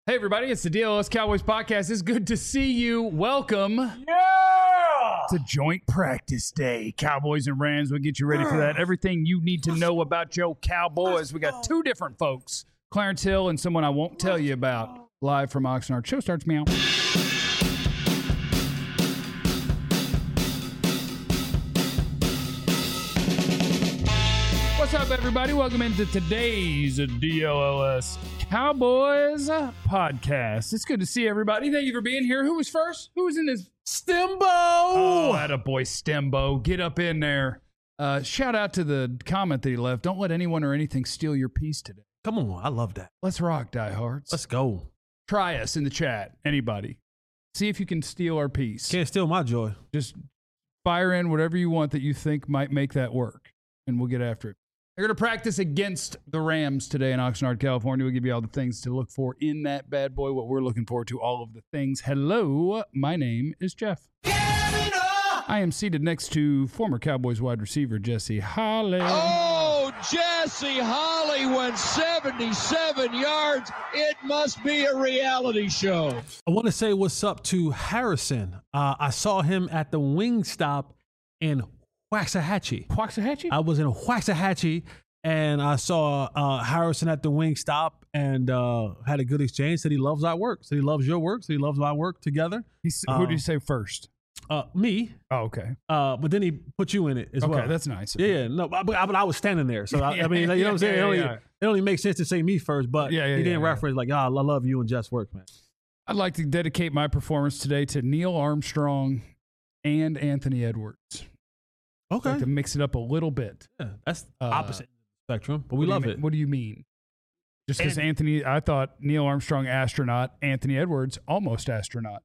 Hey everybody, it's the DLS Cowboys podcast. It's good to see you. Welcome to Joint Practice Day. Cowboys and Rams will get you ready for that. Everything you need to know about your Cowboys. We got two different folks, Clarence Hill and someone I won't tell you about, live from Oxnard. Show starts meow. What's up, everybody? Welcome into today's DLS Cowboys podcast. It's good to see everybody. Thank you for being here. Who was first? Who was in this? Stembo! Oh, attaboy, Stembo. Get up in there. Shout out to the comment that he left. Don't let anyone or anything steal your peace today. Come on, I love that. Let's rock, diehards. Let's go. Try us in the chat. Anybody. See if you can steal our peace. Can't steal my joy. Just fire in whatever you want that you think might make that work, and we'll get after it. They're going to practice against the Rams today in Oxnard, California. We'll give you all the things to look for in that bad boy, what we're looking forward to, all of the things. Hello, my name is Jeff. I am seated next to former Cowboys wide receiver Jesse Holley. Oh, Jesse Holley went 77 yards. It must be a reality show. I want to say what's up to Harrison. I saw him at the Wingstop in Waxahachie. I was in Waxahachie, and I saw Harrison at the Wingstop and had a good exchange. Said he loves our work. Said he loves your work. Said he loves my work together. Who did you say first? Me. Oh, okay. But then he put you in it as well. Okay, that's nice. Yeah, no, but I was standing there. So, I mean, you know what I'm saying? It only makes sense to say me first, but he didn't reference like, I love you and Jeff's work, man. I'd like to dedicate my performance today to Neil Armstrong and Anthony Edwards. Okay. I'd like to mix it up a little bit. Yeah, that's opposite spectrum, but we love it. What do you mean? Just because I thought Neil Armstrong, astronaut, Anthony Edwards, almost astronaut.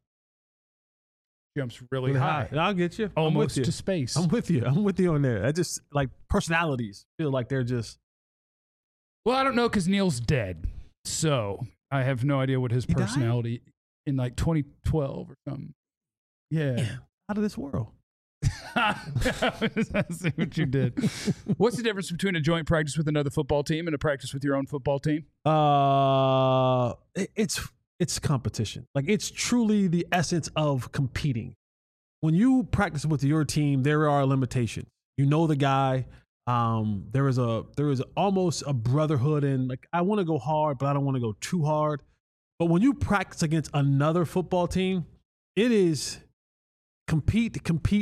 Jumps really high. I'll get you. Almost to space. I'm with you. I'm with you on there. I just like personalities feel like they're just. Well, I don't know because Neil's dead. So I have no idea what his personality in like 2012 or something. Yeah. Out of this world. I see what you did. What's the difference between a joint practice with another football team and a practice with your own football team? It's competition. Like it's truly the essence of competing. When you practice with your team, there are limitations. You know the guy. There is almost a brotherhood in like I want to go hard, but I don't want to go too hard. But when you practice against another football team, it is compete.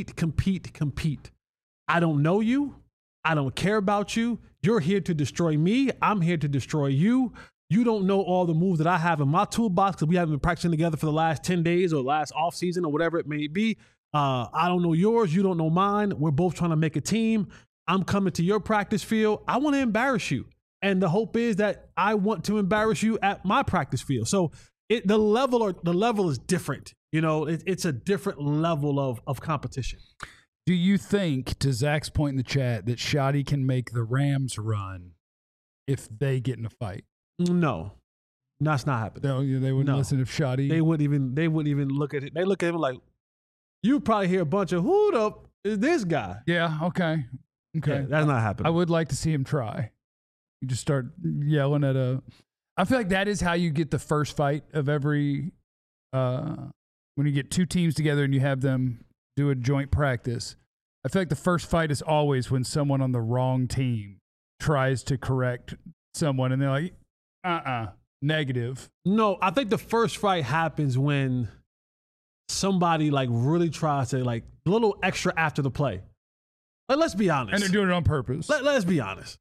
I don't know you. I don't care about you. You're here to destroy me. I'm here to destroy you. You don't know all the moves that I have in my toolbox because we haven't been practicing together for the last 10 days or last off season or whatever it may be. I don't know yours. You don't know mine. We're both trying to make a team. I'm coming to your practice field. I want to embarrass you. And the hope is that I want to embarrass you at my practice field. So the level is different. You know, it's a different level of competition. Do you think, to Zach's point in the chat, that Shoddy can make the Rams run if they get in a fight? No, that's not happening. No, they wouldn't listen if Shoddy. They wouldn't even look at it. They look at him like, you probably hear a bunch of who the is this guy? Yeah. Okay. Yeah, that's not happening. I would like to see him try. You just start yelling at I feel like that is how you get the first fight of every. When you get two teams together and you have them do a joint practice, I feel like the first fight is always when someone on the wrong team tries to correct someone and they're like, negative. No, I think the first fight happens when somebody like really tries to like a little extra after the play. Like, let's be honest. And they're doing it on purpose. Let's be honest.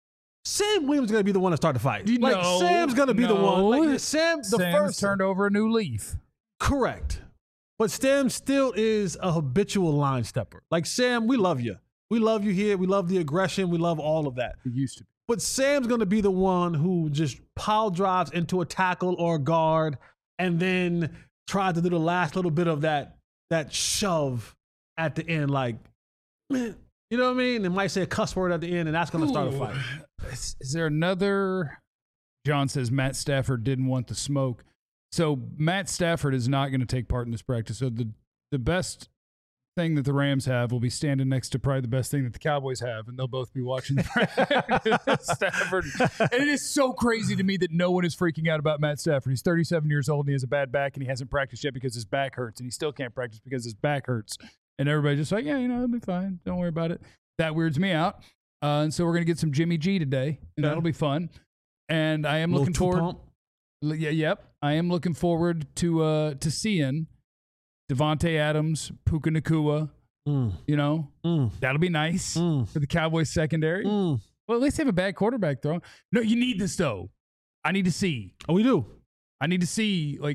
Sam Williams is going to be the one to start the fight. Sam's going to be the one. Like, Sam's first turned over a new leaf. Correct. But Sam still is a habitual line stepper. Like, Sam, we love you. We love you here. We love the aggression. We love all of that. It used to be. But Sam's going to be the one who just pile drives into a tackle or a guard and then tries to do the last little bit of that shove at the end. Like, man, you know what I mean? They might say a cuss word at the end, and that's going to start a fight. Is there another? John says Matt Stafford didn't want the smoke. So Matt Stafford is not going to take part in this practice. So the best thing that the Rams have will be standing next to probably the best thing that the Cowboys have, and they'll both be watching the Stafford. And it is so crazy to me that no one is freaking out about Matt Stafford. He's 37 years old, and he has a bad back, and he hasn't practiced yet because his back hurts, and he still can't practice because his back hurts. And everybody's just like, yeah, it'll be fine. Don't worry about it. That weirds me out. And so we're going to get some Jimmy G today, and that'll be fun. And I am looking forward. I am looking forward to seeing Devontae Adams, Puka Nacua. That'll be nice for the Cowboys secondary. Well, at least they have a bad quarterback throw. No, you need this though. I need to see. Oh, we do. I need to see like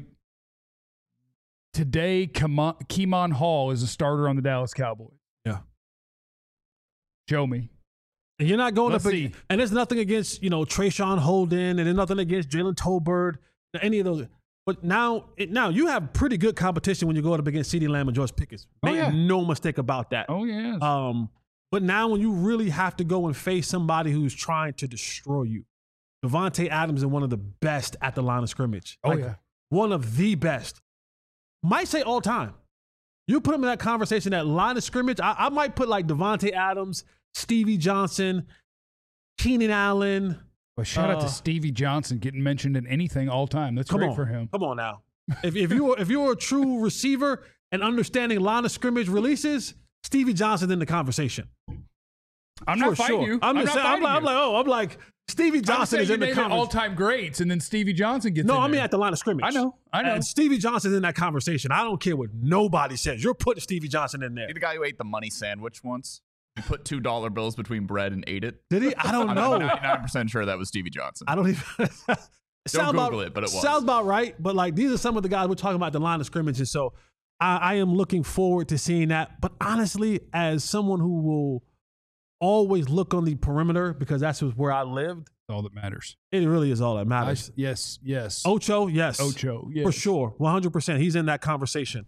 today. Keemon Hall is a starter on the Dallas Cowboys. Yeah. Show me. And you're not going up against, and there's nothing against, Trayshawn Holden, and there's nothing against Jalen Tolbert, any of those. But now you have pretty good competition when you go up against CeeDee Lamb and George Pickens. Make no mistake about that. Oh, yeah. But now when you really have to go and face somebody who's trying to destroy you, Devontae Adams is one of the best at the line of scrimmage. One of the best. Might say all time. You put him in that conversation, that line of scrimmage, I might put like Devontae Adams, Stevie Johnson, Keenan Allen. Well, shout out to Stevie Johnson getting mentioned in anything all time. That's great for him. Come on now. If you're a true receiver and understanding line of scrimmage releases, Stevie Johnson in the conversation. I'm not fighting you. I'm like Stevie Johnson is in the conversation. All-time greats, and then Stevie Johnson gets in there. I mean at the line of scrimmage. I know. And Stevie Johnson's in that conversation. I don't care what nobody says. You're putting Stevie Johnson in there. The guy who ate the money sandwich once. He put $2 bills between bread and ate it. Did he? I don't know. I'm 99% sure that was Stevie Johnson. I don't even. Don't Google it, but it was. Sounds about right. But like these are some of the guys we're talking about the line of scrimmage, and so I am looking forward to seeing that. But honestly, as someone who will always look on the perimeter because that's where I lived, all that matters. It really is all that matters. Yes. Ocho, yes. Ocho, yes. For sure. 100%. He's in that conversation.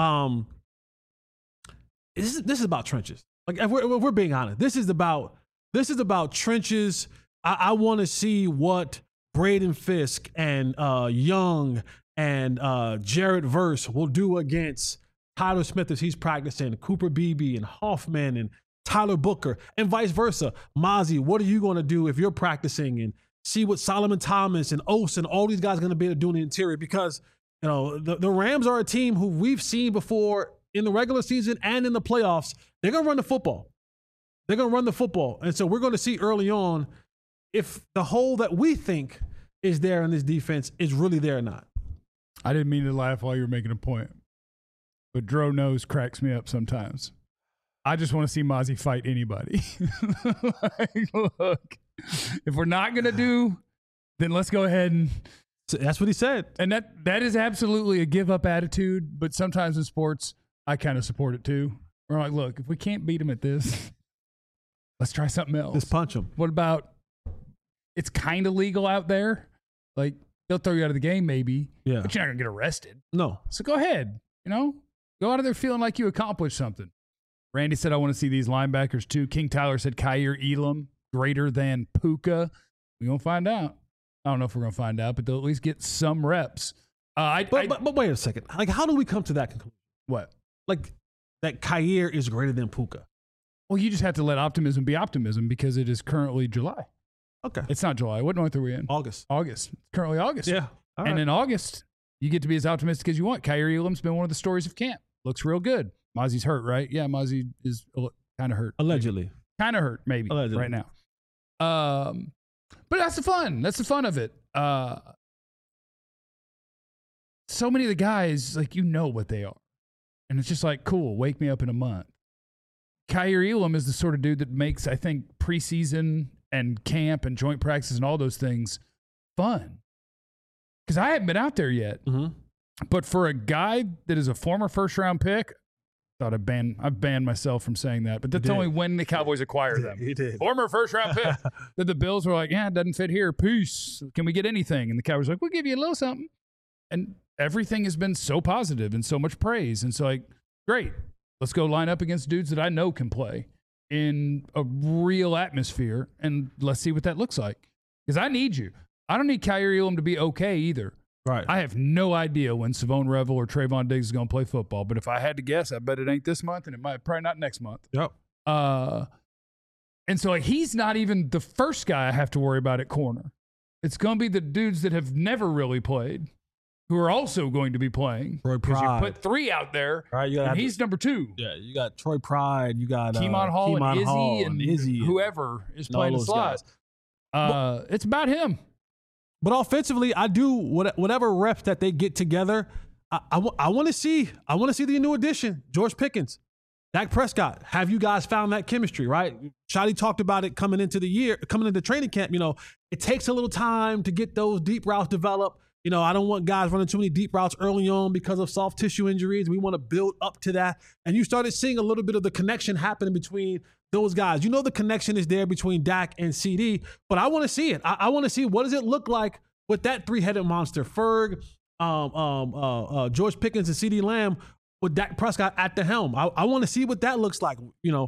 This is about trenches. Like if we're being honest, this is about trenches. I want to see what Braden Fisk and Young and Jared Verse will do against Tyler Smith as he's practicing, Cooper Beebe and Hoffman and Tyler Booker, and vice versa. Mozzie, what are you going to do if you're practicing, and see what Solomon Thomas and Oates and all these guys are going to be able to do in the interior? Because the Rams are a team who we've seen before in the regular season and in the playoffs. They're going to run the football. And so we're going to see early on if the hole that we think is there in this defense is really there or not. I didn't mean to laugh while you were making a point, but Dro Nose cracks me up sometimes. I just want to see Mozzie fight anybody. Look, if we're not going to do, then let's go ahead and... So that's what he said. And that is absolutely a give-up attitude, but sometimes in sports, I kind of support it too. We're like, look, if we can't beat him at this, let's try something else. Just punch him. What about, it's kind of legal out there. Like, they'll throw you out of the game maybe, but you're not going to get arrested. No. So go ahead, go out of there feeling like you accomplished something. Randy said, I want to see these linebackers too. King Tyler said, Kaiir Elam greater than Puka. We're going to find out. I don't know if we're going to find out, but they'll at least get some reps. But wait a second. Like, how do we come to that conclusion? What? Like, that Kaiir is greater than Puka. Well, you just have to let optimism be optimism because it is currently July. Okay. It's not July. What month are we in? August. It's currently August. Yeah. All and right. in August, you get to be as optimistic as you want. Kaiir Elam's been one of the stories of camp. Looks real good. Mozzie's hurt, right? Yeah, Mozzie is kind of hurt. Allegedly. Kind of hurt, maybe, Allegedly. right now. But that's the fun. That's the fun of it. So many of the guys, like, what they are. And it's just like, cool, wake me up in a month. Kaiir Elam is the sort of dude that makes, I think, preseason and camp and joint practices and all those things fun. Because I haven't been out there yet. Mm-hmm. But for a guy that is a former first-round pick, I've banned myself from saying that. But that's only when the Cowboys acquire them. You did. Former first-round pick. That the Bills were like, it doesn't fit here. Peace. Can we get anything? And the Cowboys were like, we'll give you a little something. And everything has been so positive and so much praise. And so, like, great. Let's go line up against dudes that I know can play in a real atmosphere, and let's see what that looks like. Because I need you. I don't need Kaiir Elam to be okay either. Right. I have no idea when Savone Revel or Trayvon Diggs is going to play football, but if I had to guess, I bet it ain't this month, and it might probably not next month. Yep. And so like, he's not even the first guy I have to worry about at corner. It's going to be the dudes that have never really played who are also going to be playing. Troy Because you Pride. put 3 out there, Right, you gotta and have he's number 2. Yeah, you got Troy Pride, you got Keemon Hall Keemon and Hall Izzy and Izzy whoever is and all playing the those slot. guys. It's about him. But offensively, I do whatever reps that they get together. I want to see the new addition, George Pickens, Dak Prescott. Have you guys found that chemistry? Right? Shotty talked about it coming into training camp. You know, it takes a little time to get those deep routes developed. You know, I don't want guys running too many deep routes early on because of soft tissue injuries. We want to build up to that. And you started seeing a little bit of the connection happening between those guys. You know, the connection is there between Dak and CD, but I want to see it. I want to see what does it look like with that 3-headed monster, Ferg, George Pickens and CD Lamb with Dak Prescott at the helm. I want to see what that looks like. You know,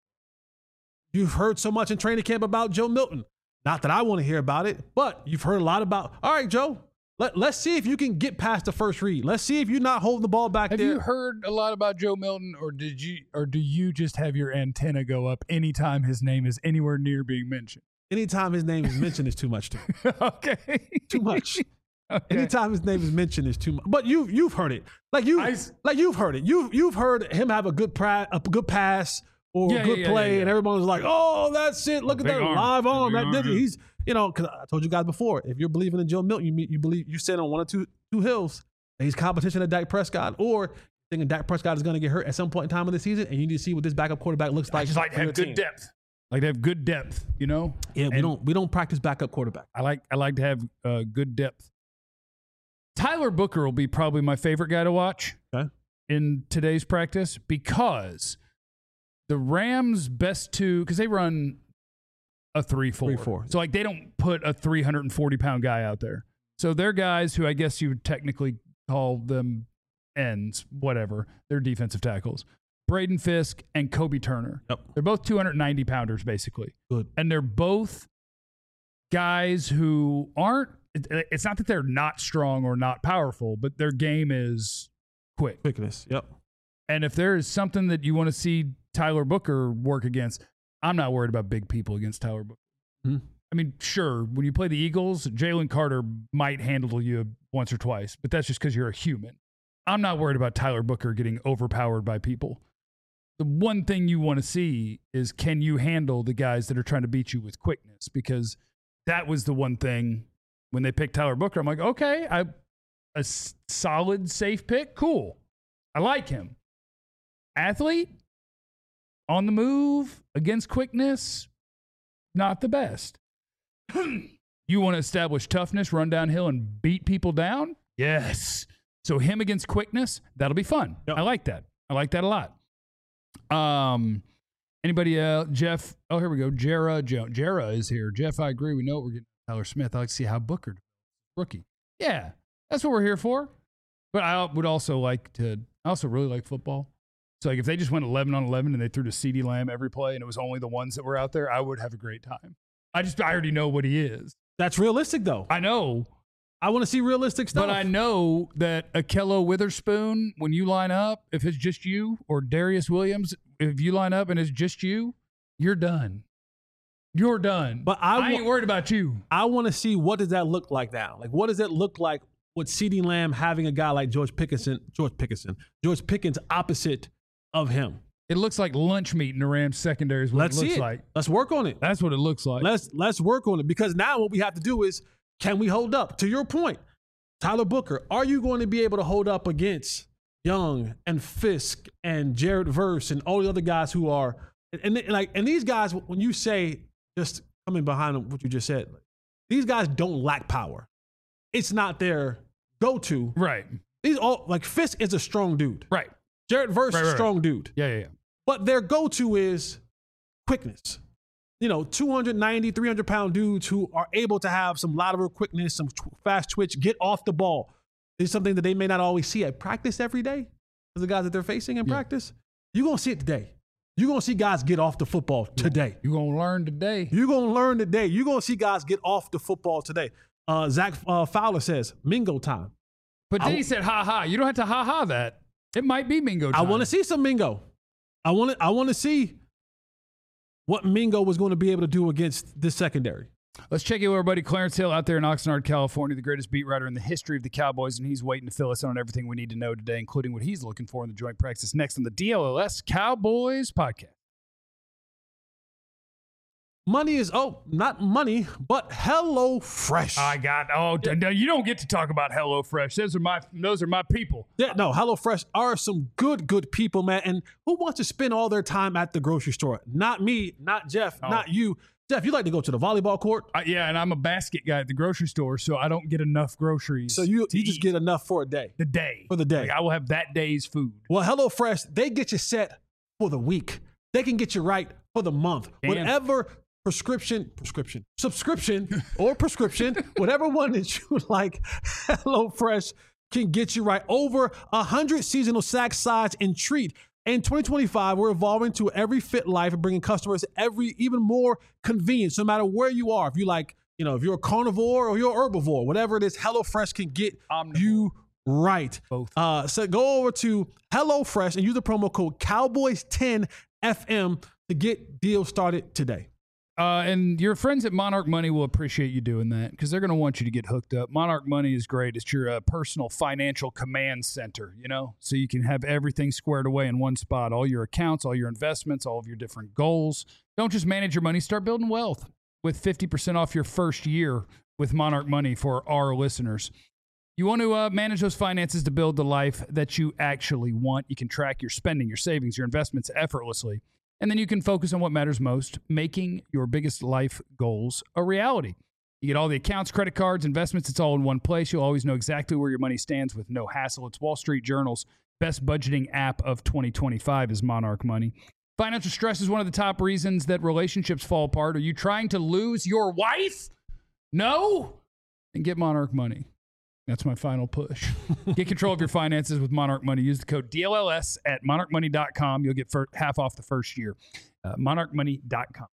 you've heard so much in training camp about Joe Milton. Not that I want to hear about it, but you've heard a lot about, all right, Joe, let's see if you can get past the first read. Let's see if you're not holding the ball back Have there. you heard a lot about Joe Milton, or do you just have your antenna go up anytime his name is anywhere near being mentioned? Anytime his name is mentioned is too much to me. Okay. Too much. Okay. Anytime his name is mentioned is too much. But you've heard it. You've heard it. You've heard him have a good pass or a good play, and everyone was like, "Oh, that's it! Look at that live arm!" He's, you know, because I told you guys before, if you're believing in Joe Milton, you believe you stand on one or two hills. And he's competition to Dak Prescott, or thinking Dak Prescott is going to get hurt at some point in time of the season, and you need to see what this backup quarterback looks like. I just like to have good depth. Like to have good depth, you know. Yeah, we don't practice backup quarterback. I like to have good depth. Tyler Booker will be probably my favorite guy to watch in today's practice, because the Rams' best 2, because they run a 3-4. So like they don't put a 340-pound guy out there. So they're guys who I guess you would technically call them ends, whatever. They're defensive tackles. Braden Fisk and Kobe Turner. Yep. They're both 290-pounders, basically. Good. And they're both guys who aren't, it's not that they're not strong or not powerful, but their game is quickness. Yep. And if there is something that you want to see Tyler Booker work against, I'm not worried about big people against Tyler Booker. Mm-hmm. I mean, sure, when you play the Eagles, Jalen Carter might handle you once or twice, but that's just because you're a human. I'm not worried about Tyler Booker getting overpowered by people. The one thing you want to see is, can you handle the guys that are trying to beat you with quickness? Because that was the one thing when they picked Tyler Booker. I'm like, okay, a solid, safe pick. Cool. I like him. Athlete, on the move, against quickness, not the best. You want to establish toughness, run downhill, and beat people down? Yes. So him against quickness, that'll be fun. Yep. I like that. I like that a lot. Anybody else? Jeff. Oh, here we go. Jera Jones. Jera is here. Jeff, I agree. We know we're getting Tyler Smith. I like to see how Booker, rookie. Yeah, that's what we're here for. But I would also like to, I also really like football. So like if they just went 11 on 11 and they threw to CeeDee Lamb every play and it was only the ones that were out there, I would have a great time. I already know what he is. That's realistic though. I know. I want to see realistic stuff. But I know that Akello Witherspoon, when you line up, if it's just you, or Darius Williams, if you line up and it's just you, you're done. You're done. But I ain't worried about you. I want to see, what does that look like now? Like, what does it look like with CeeDee Lamb having a guy like George Pickens opposite of him? It looks like lunch meat in the Rams secondary is what Let's it looks see it. like. Let's work on it. That's what it looks like. Let's work on it, because now what we have to do is, can we hold up? To your point, Tyler Booker, are you going to be able to hold up against Young and Fisk and Jared Verse and all the other guys who are, and these guys, when you say, just coming behind what you just said, these guys don't lack power. It's not their go-to. Right. These all, like, Fisk is a strong dude. Right. Jared Verse is a strong dude. Yeah. But their go-to is quickness. 290, 300-pound dudes who are able to have some lateral quickness, some fast twitch, get off the ball. It's something that they may not always see at practice every day. The guys that they're facing in practice, you're going to see it today. You're going to see guys get off the football today. You're going to learn today. You're going to learn today. You're going to see guys get off the football today. Zach Fowler says, Mingo time. But then he said, ha ha. You don't have to ha ha that. It might be Mingo time. I want to see some Mingo. I want to see what Mingo was going to be able to do against this secondary. Let's check in with our buddy Clarence Hill out there in Oxnard, California, the greatest beat writer in the history of the Cowboys, and he's waiting to fill us in on everything we need to know today, including what he's looking for in the joint practice next on the DLLS Cowboys podcast. Money is, not money, but HelloFresh. You don't get to talk about HelloFresh. Those are my people. Yeah, no, HelloFresh are some good people, man. And who wants to spend all their time at the grocery store? Not me, not Jeff, not you. Jeff, you like to go to the volleyball court? Yeah, and I'm a basket guy at the grocery store, so I don't get enough groceries. So you just get enough for a day. For the day. Like, I will have that day's food. Well, HelloFresh, they get you set for the week. They can get you right for the month. Damn. Whatever subscription, or prescription, whatever one that you like, HelloFresh can get you right. Over 100 seasonal snack, sides, and treat. In 2025, we're evolving to every fit life and bringing customers even more convenience, no matter where you are. If you're a carnivore or you're an herbivore, whatever it is, HelloFresh can get you right. Both. So go over to HelloFresh and use the promo code Cowboys10FM to get deals started today. And your friends at Monarch Money will appreciate you doing that because they're going to want you to get hooked up. Monarch Money is great. It's your personal financial command center, so you can have everything squared away in one spot. All your accounts, all your investments, all of your different goals. Don't just manage your money. Start building wealth with 50% off your first year with Monarch Money for our listeners. You want to manage those finances to build the life that you actually want. You can track your spending, your savings, your investments effortlessly. And then you can focus on what matters most, making your biggest life goals a reality. You get all the accounts, credit cards, investments. It's all in one place. You'll always know exactly where your money stands with no hassle. It's Wall Street Journal's best budgeting app of 2025 is Monarch Money. Financial stress is one of the top reasons that relationships fall apart. Are you trying to lose your wife? No? Then get Monarch Money. That's my final push. Get control of your finances with Monarch Money. Use the code DLLS at monarchmoney.com. You'll get half off the first year. Monarchmoney.com.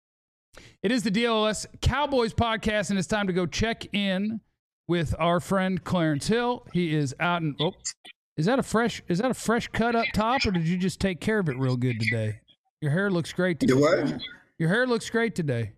It is the DLLS Cowboys podcast, and it's time to go check in with our friend Clarence Hill. He is out and is that a fresh cut up top, or did you just take care of it real good today? Your hair looks great today. What? Your hair looks great today.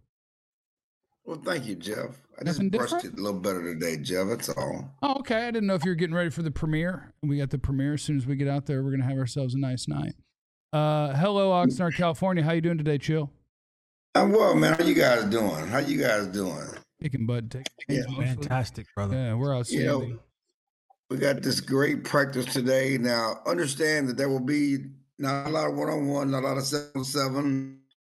Well, thank you, Jeff. I Nothing just brushed different? it a little better today, Jeff. That's all. Oh, okay. I didn't know if you were getting ready for the premiere. We got the premiere. As soon as we get out there, we're going to have ourselves a nice night. Hello, Oxnard, California. How you doing today, Chill? I'm well, man. How you guys doing? Kicking butt. Fantastic, brother. Yeah, we're outstanding. We got this great practice today. Now, understand that there will be not a lot of one-on-one, not a lot of 7-on-7.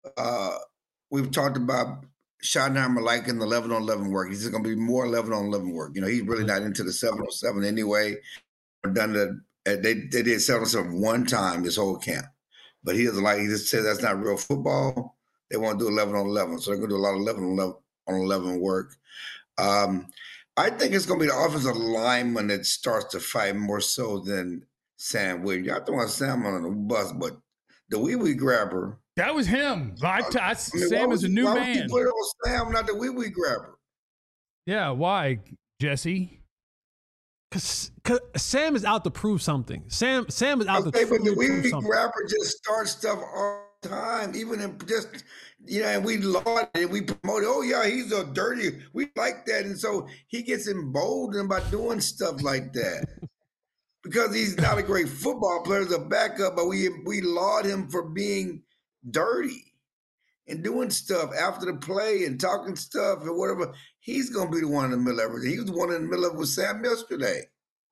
We've talked about Schottenheimer liking the 11-on-11 work. He's going to be more 11-on-11 work. He's really not into the 7-on-7 anyway. They did 7-on-7 one time this whole camp. But he doesn't like, he just says that's not real football. They want to do 11-on-11. So they're going to do a lot of 11-on-11 work. I think it's going to be the offensive lineman that starts to fight more so than Sam Williams. Y'all don't want Sam on the bus, but the wee grabber. That was him. Sam is a new man. Why would you put it on Sam, not the wee grabber? Yeah, why, Jesse? Because Sam is out to prove something. Sam is out to prove something. But the wee grabber just starts stuff all the time, even in just, and we laud it, we promote it. Oh, yeah, he's a dirty. We like that. And so he gets emboldened by doing stuff like that. Because he's not a great football player, he's a backup, but we laud him for being dirty and doing stuff after the play and talking stuff and whatever. He's going to be the one in the middle of everything. He was the one in the middle of it with Sam yesterday.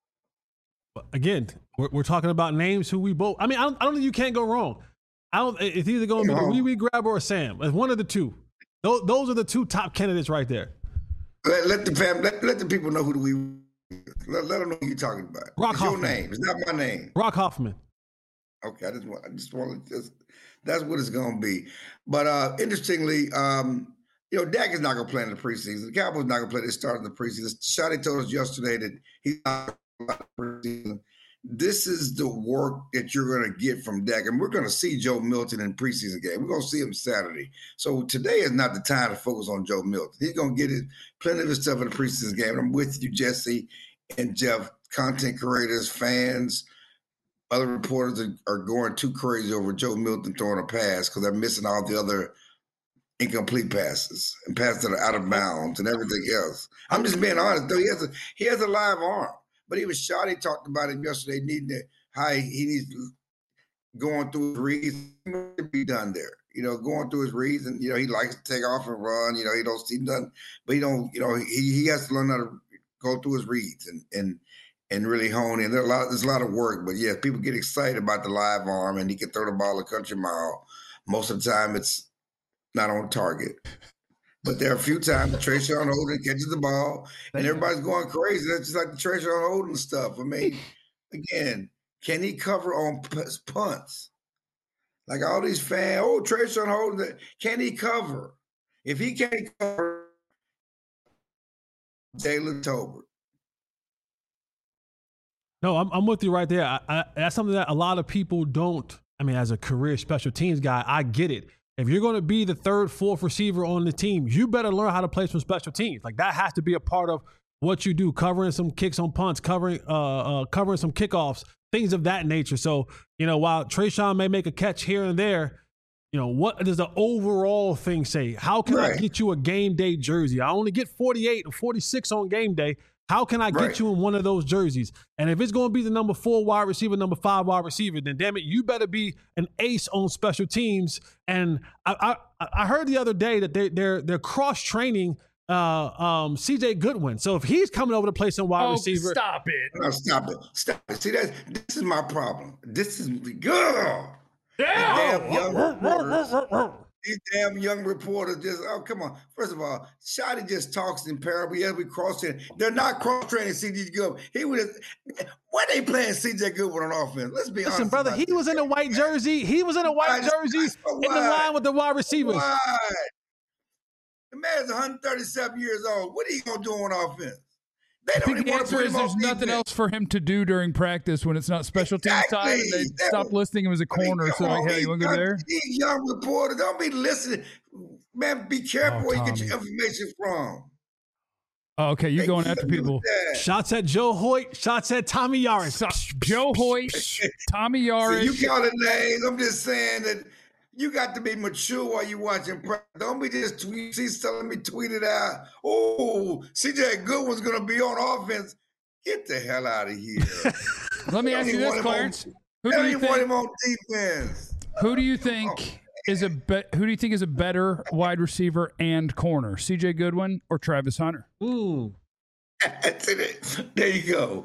Again, we're talking about names who we both. I mean, I don't think you can't go wrong. It's either going to be the wee grabber or Sam. It's one of the two. Those are the two top candidates right there. Let the people know who the wee. Let them know who you're talking about. Rock it's Hoffman. Your name. It's not my name. Rock Hoffman. Okay, I just want to. That's what it's going to be. But interestingly, Dak is not going to play in the preseason. The Cowboys not going to play. They start in the preseason. Shotty told us yesterday that he's not going to play in the preseason. this is the work that you're going to get from Dak. And we're going to see Joe Milton in preseason game. We're going to see him Saturday. So today is not the time to focus on Joe Milton. He's going to get plenty of his stuff in the preseason game. And I'm with you, Jesse and Jeff, content creators, fans, other reporters are going too crazy over Joe Milton throwing a pass because they're missing all the other incomplete passes and passes that are out of bounds and everything else. I'm just being honest, though. He has a live arm. But he was shot. He talked about it yesterday. He needs going through his reads to be done there. Going through his reads, and he likes to take off and run. He don't see nothing, but he don't. He has to learn how to go through his reads and really hone in. There's a lot of work, but yeah, people get excited about the live arm, and he can throw the ball a country mile. Most of the time, it's not on target. But there are a few times Trayshawn Holden catches the ball, and everybody's going crazy. That's just like the Trayshawn Holden stuff. I mean, again, can he cover on punts? Like all these fans, Trayshawn Holden, can he cover? If he can't cover, Jalen Tolbert. No, I'm with you right there. That's something that a lot of people don't. I mean, as a career special teams guy, I get it. If you're going to be the third, fourth receiver on the team, you better learn how to play some special teams. Like that has to be a part of what you do, covering some kicks on punts, covering some kickoffs, things of that nature. So, while Trayshawn may make a catch here and there, what does the overall thing say? How can I get you a game day jersey? I only get 48 or 46 on game day. How can I get you in one of those jerseys? And if it's going to be the number 4 wide receiver, number 5 wide receiver, then damn it, you better be an ace on special teams. And I heard the other day that they're cross training CJ Goodwin. So if he's coming over to play some wide receiver, stop it. No, stop it. See, this is my problem. This is girl. These damn young reporters just, come on. First of all, Shotty just talks in parable. Yeah, we cross-training. They're not cross-training C.J. Goodwin. Why they playing C.J. Goodwin on offense? Let's be honest. Listen, brother, he was in a white jersey. He was in a white jersey in the line with the wide receivers. Why? The man's 137 years old. What are you going to do on offense? I think the answer is there's nothing else for him to do during practice when it's not special teams time. And they stop listing him as a corner. So, hey, you want to go there? These young reporters, don't be listening. Man, be careful where you get your information from. Oh, okay, you're going after people. Shots at Joe Hoyt. Shots at Tommy Yaris. Joe Hoyt, Tommy Yaris. You call it names. I'm just saying that you got to be mature while you're watching practice. Don't be just telling me tweet it out. Oh, CJ Goodwin's going to be on offense. Get the hell out of here. Let me ask you this, Clarence. Who do you want him on defense? Who do you think is a better wide receiver and corner, CJ Goodwin or Travis Hunter? Ooh. There you go.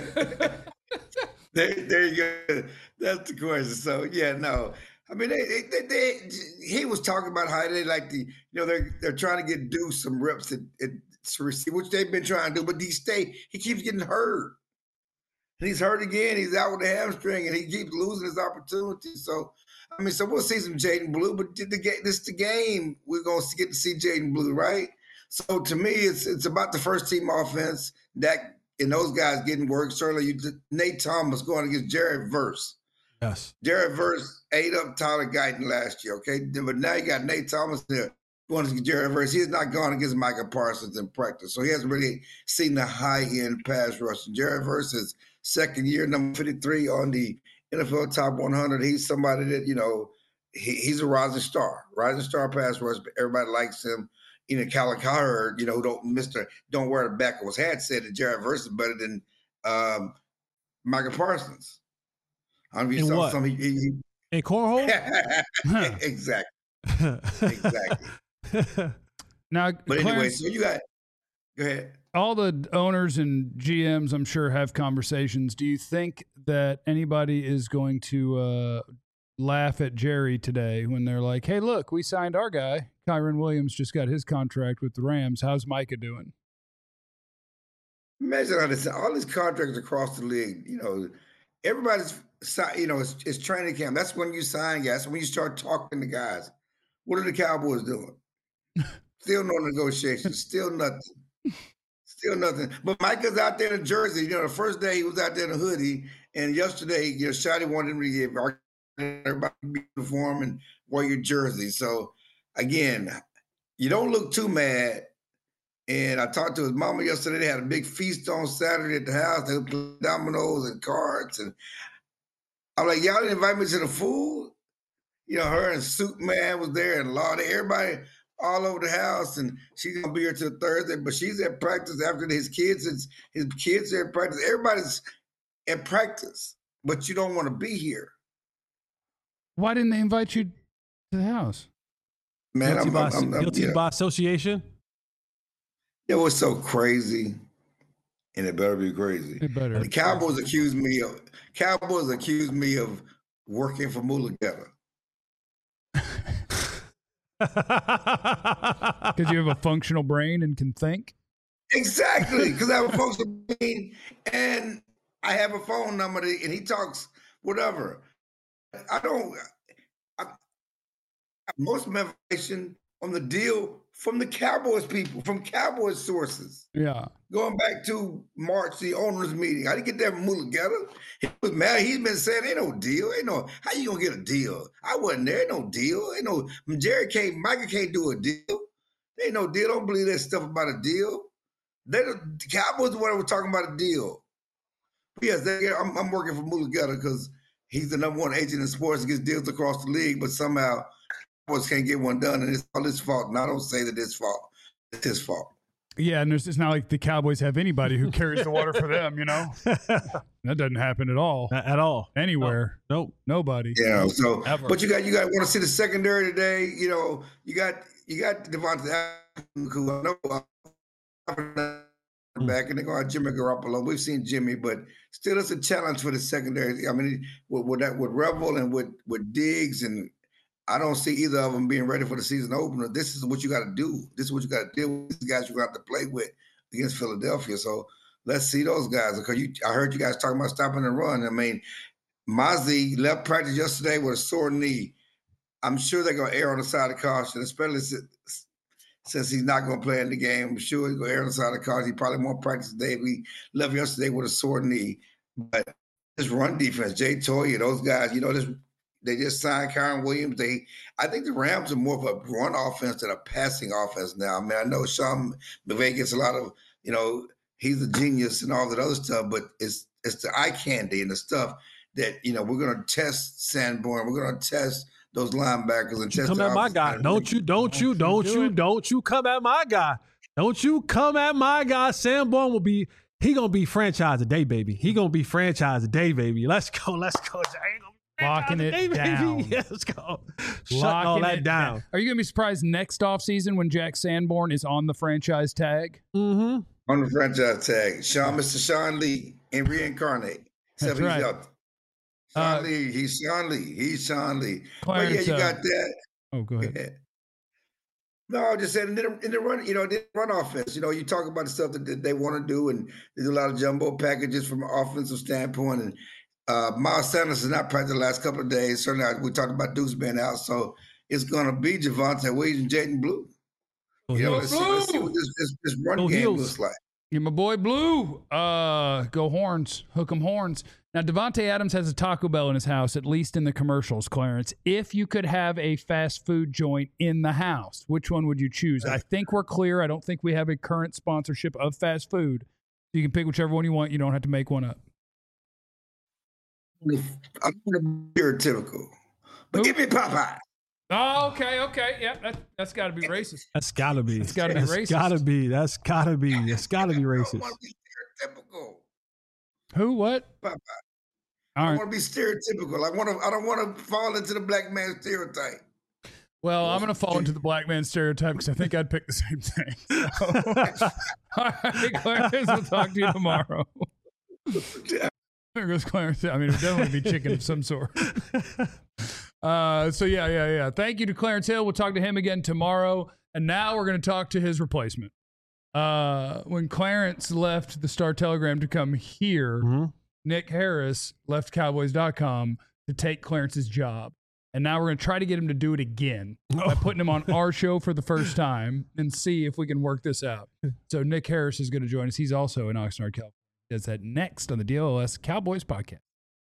there you go. That's the question. So yeah, no. I mean, he was talking about how they like they're trying to get Deuce some reps at receive, which they've been trying to do, but he keeps getting hurt. And he's hurt again. He's out with a hamstring, and he keeps losing his opportunity. So, I mean, we'll see some Jaden Blue, but this is the game. We're going to get to see Jaden Blue, right? So, to me, it's about the first team offense, that and those guys getting work. Certainly, Nate Thomas going against Jared Verse. Yes. Jared Verse ate up Tyler Guyton last year, okay? But now you got Nate Thomas there going against Jared Verse. He has not gone against Micah Parsons in practice, so he hasn't really seen the high-end pass rush. Jared Verse is second year, number 53 on the NFL Top 100. He's somebody that, he's a rising star pass rush. But everybody likes him. Callum Cowherd, don't wear the back of his hat, said that Jared Verse is better than Micah Parsons. I mean, in what? In cornhole? Exactly. Now, but anyway, so you got – go ahead. All the owners and GMs, I'm sure, have conversations. Do you think that anybody is going to laugh at Jerry today when they're like, hey, look, we signed our guy. Kyren Williams just got his contract with the Rams. How's Micah doing? Imagine all these contracts across the league, everybody's – it's training camp. That's when you sign guys. That's when you start talking to guys. What are the Cowboys doing? Still no negotiations. Still nothing. But Micah's out there in Jersey. The first day he was out there in a hoodie, And yesterday, Shotty wanted him to give everybody uniform and wear your jersey. So again, you don't look too mad. And I talked to his mama yesterday. They had a big feast on Saturday at the house. They played dominoes and cards. And I'm like, y'all didn't invite me to the food? Her and Soup Man was there and Lottie, everybody all over the house. And she's going to be here till Thursday. But she's at practice after his kids are at practice. Everybody's at practice. But you don't want to be here. Why didn't they invite you to the house? Man, guilty by association? It was so crazy, and it better be crazy. It better. The Cowboys accused me of working for Mulugeta. Because you have a functional brain and can think? Exactly, because I have a functional brain, and I have a phone number, and he talks whatever. Most of my information on the deal from the Cowboys people, from Cowboys sources. Yeah. Going back to March, the owners' meeting. I didn't get that from Mulugeta. He was mad. He's been saying, ain't no deal. How you going to get a deal? I wasn't there. Ain't no deal. Micah can't do a deal. Ain't no deal. Don't believe that stuff about a deal. The Cowboys the one that were talking about a deal. But yes, I'm working for Mulugeta because he's the number one agent in sports and gets deals across the league, but somehow Cowboys can't get one done, and it's all his fault. And I don't say that it's fault. It's his fault. Yeah, and it's not like the Cowboys have anybody who carries the water for them, That doesn't happen at all. Not at all. Anywhere. Nope. Nobody. So, ever. But you got want to see the secondary today. You got Devontae, who I know back, and they're going to have Jimmy Garoppolo. We've seen Jimmy, but still, it's a challenge for the secondary. I mean, with Revel and with Diggs, and I don't see either of them being ready for the season opener. This is what you got to do. This is what you got to deal with. These guys you're going to have to play with against Philadelphia. So let's see those guys. Because I heard you guys talking about stopping the run. I mean, Mozzie left practice yesterday with a sore knee. I'm sure they're going to err on the side of caution, especially since he's not going to play in the game. I'm sure he's going to err on the side of caution. He probably won't practice today. We left yesterday with a sore knee. But this run defense, Jay Toya, those guys, they just signed Kyron Williams. I think the Rams are more of a run offense than a passing offense now. I mean, I know Sean McVay gets a lot of, he's a genius and all that other stuff, but it's the eye candy and the stuff that, we're going to test Sanborn. We're going to test those linebackers and test. Come at my guy. Don't you come at my guy. Don't you come at my guy. Sanborn he going to be franchise today, baby. He going to be franchise today, baby. Let's go. Locking it down. Yeah, let's go. Shutting all that down. Are you going to be surprised next offseason when Jack Sanborn is on the franchise tag? Mm-hmm. On the franchise tag. Mr. Sean Lee and reincarnate. That's right. Sean Lee. He's Sean Lee. He's Sean Lee. Clarence, but yeah, you got that. Oh, go ahead. Yeah. No, I just said in the run, the run offense, you talk about the stuff that they want to do, and they do a lot of jumbo packages from an offensive standpoint, and Miles Sanders has not practiced the last couple of days. Certainly, we talked about Deuce being out, so it's going to be Javonte Williams and Jaden Blue. Let's see what this run game looks like. Yeah, my boy Blue. Go Horns. Hook 'em horns. Now, Devontae Adams has a Taco Bell in his house, at least in the commercials, Clarence. If you could have a fast food joint in the house, which one would you choose? I think we're clear. I don't think we have a current sponsorship of fast food. You can pick whichever one you want. You don't have to make one up. I'm going to be stereotypical, but give me Popeye. Oh, okay. Yeah, that's got to be racist. That's got to be. That's got to be racist. That's got to be racist. I want to be stereotypical. Who? What? Popeye. I want to be stereotypical. I don't want to fall into the black man stereotype. Well, I'm going to fall into the black man stereotype because I think I'd pick the same thing. So. All right, Clarence, we'll talk to you tomorrow. There goes Clarence. I mean, it would definitely be chicken of some sort. So yeah. Thank you to Clarence Hill. We'll talk to him again tomorrow. And now we're going to talk to his replacement. When Clarence left the Star Telegram to come here, Nick Harris left Cowboys.com to take Clarence's job. And now we're going to try to get him to do it again by putting him on our show for the first time and see if we can work this out. So Nick Harris is going to join us. He's also in Oxnard, California. He does that next on the DLS Cowboys podcast.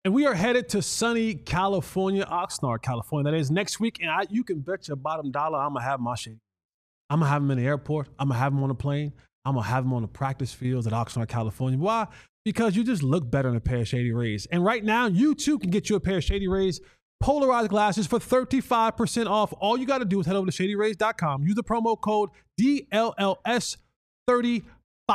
And we are headed to sunny California, Oxnard, California. That is next week. And you can bet your bottom dollar I'm going to have my Shady. I'm going to have them in the airport. I'm going to have them on the plane. I'm going to have them on the practice fields at Oxnard, California. Why? Because you just look better in a pair of Shady Rays. And right now, you too can get you a pair of Shady Rays polarized glasses for 35% off. All you got to do is head over to ShadyRays.com. Use the promo code DLLS35.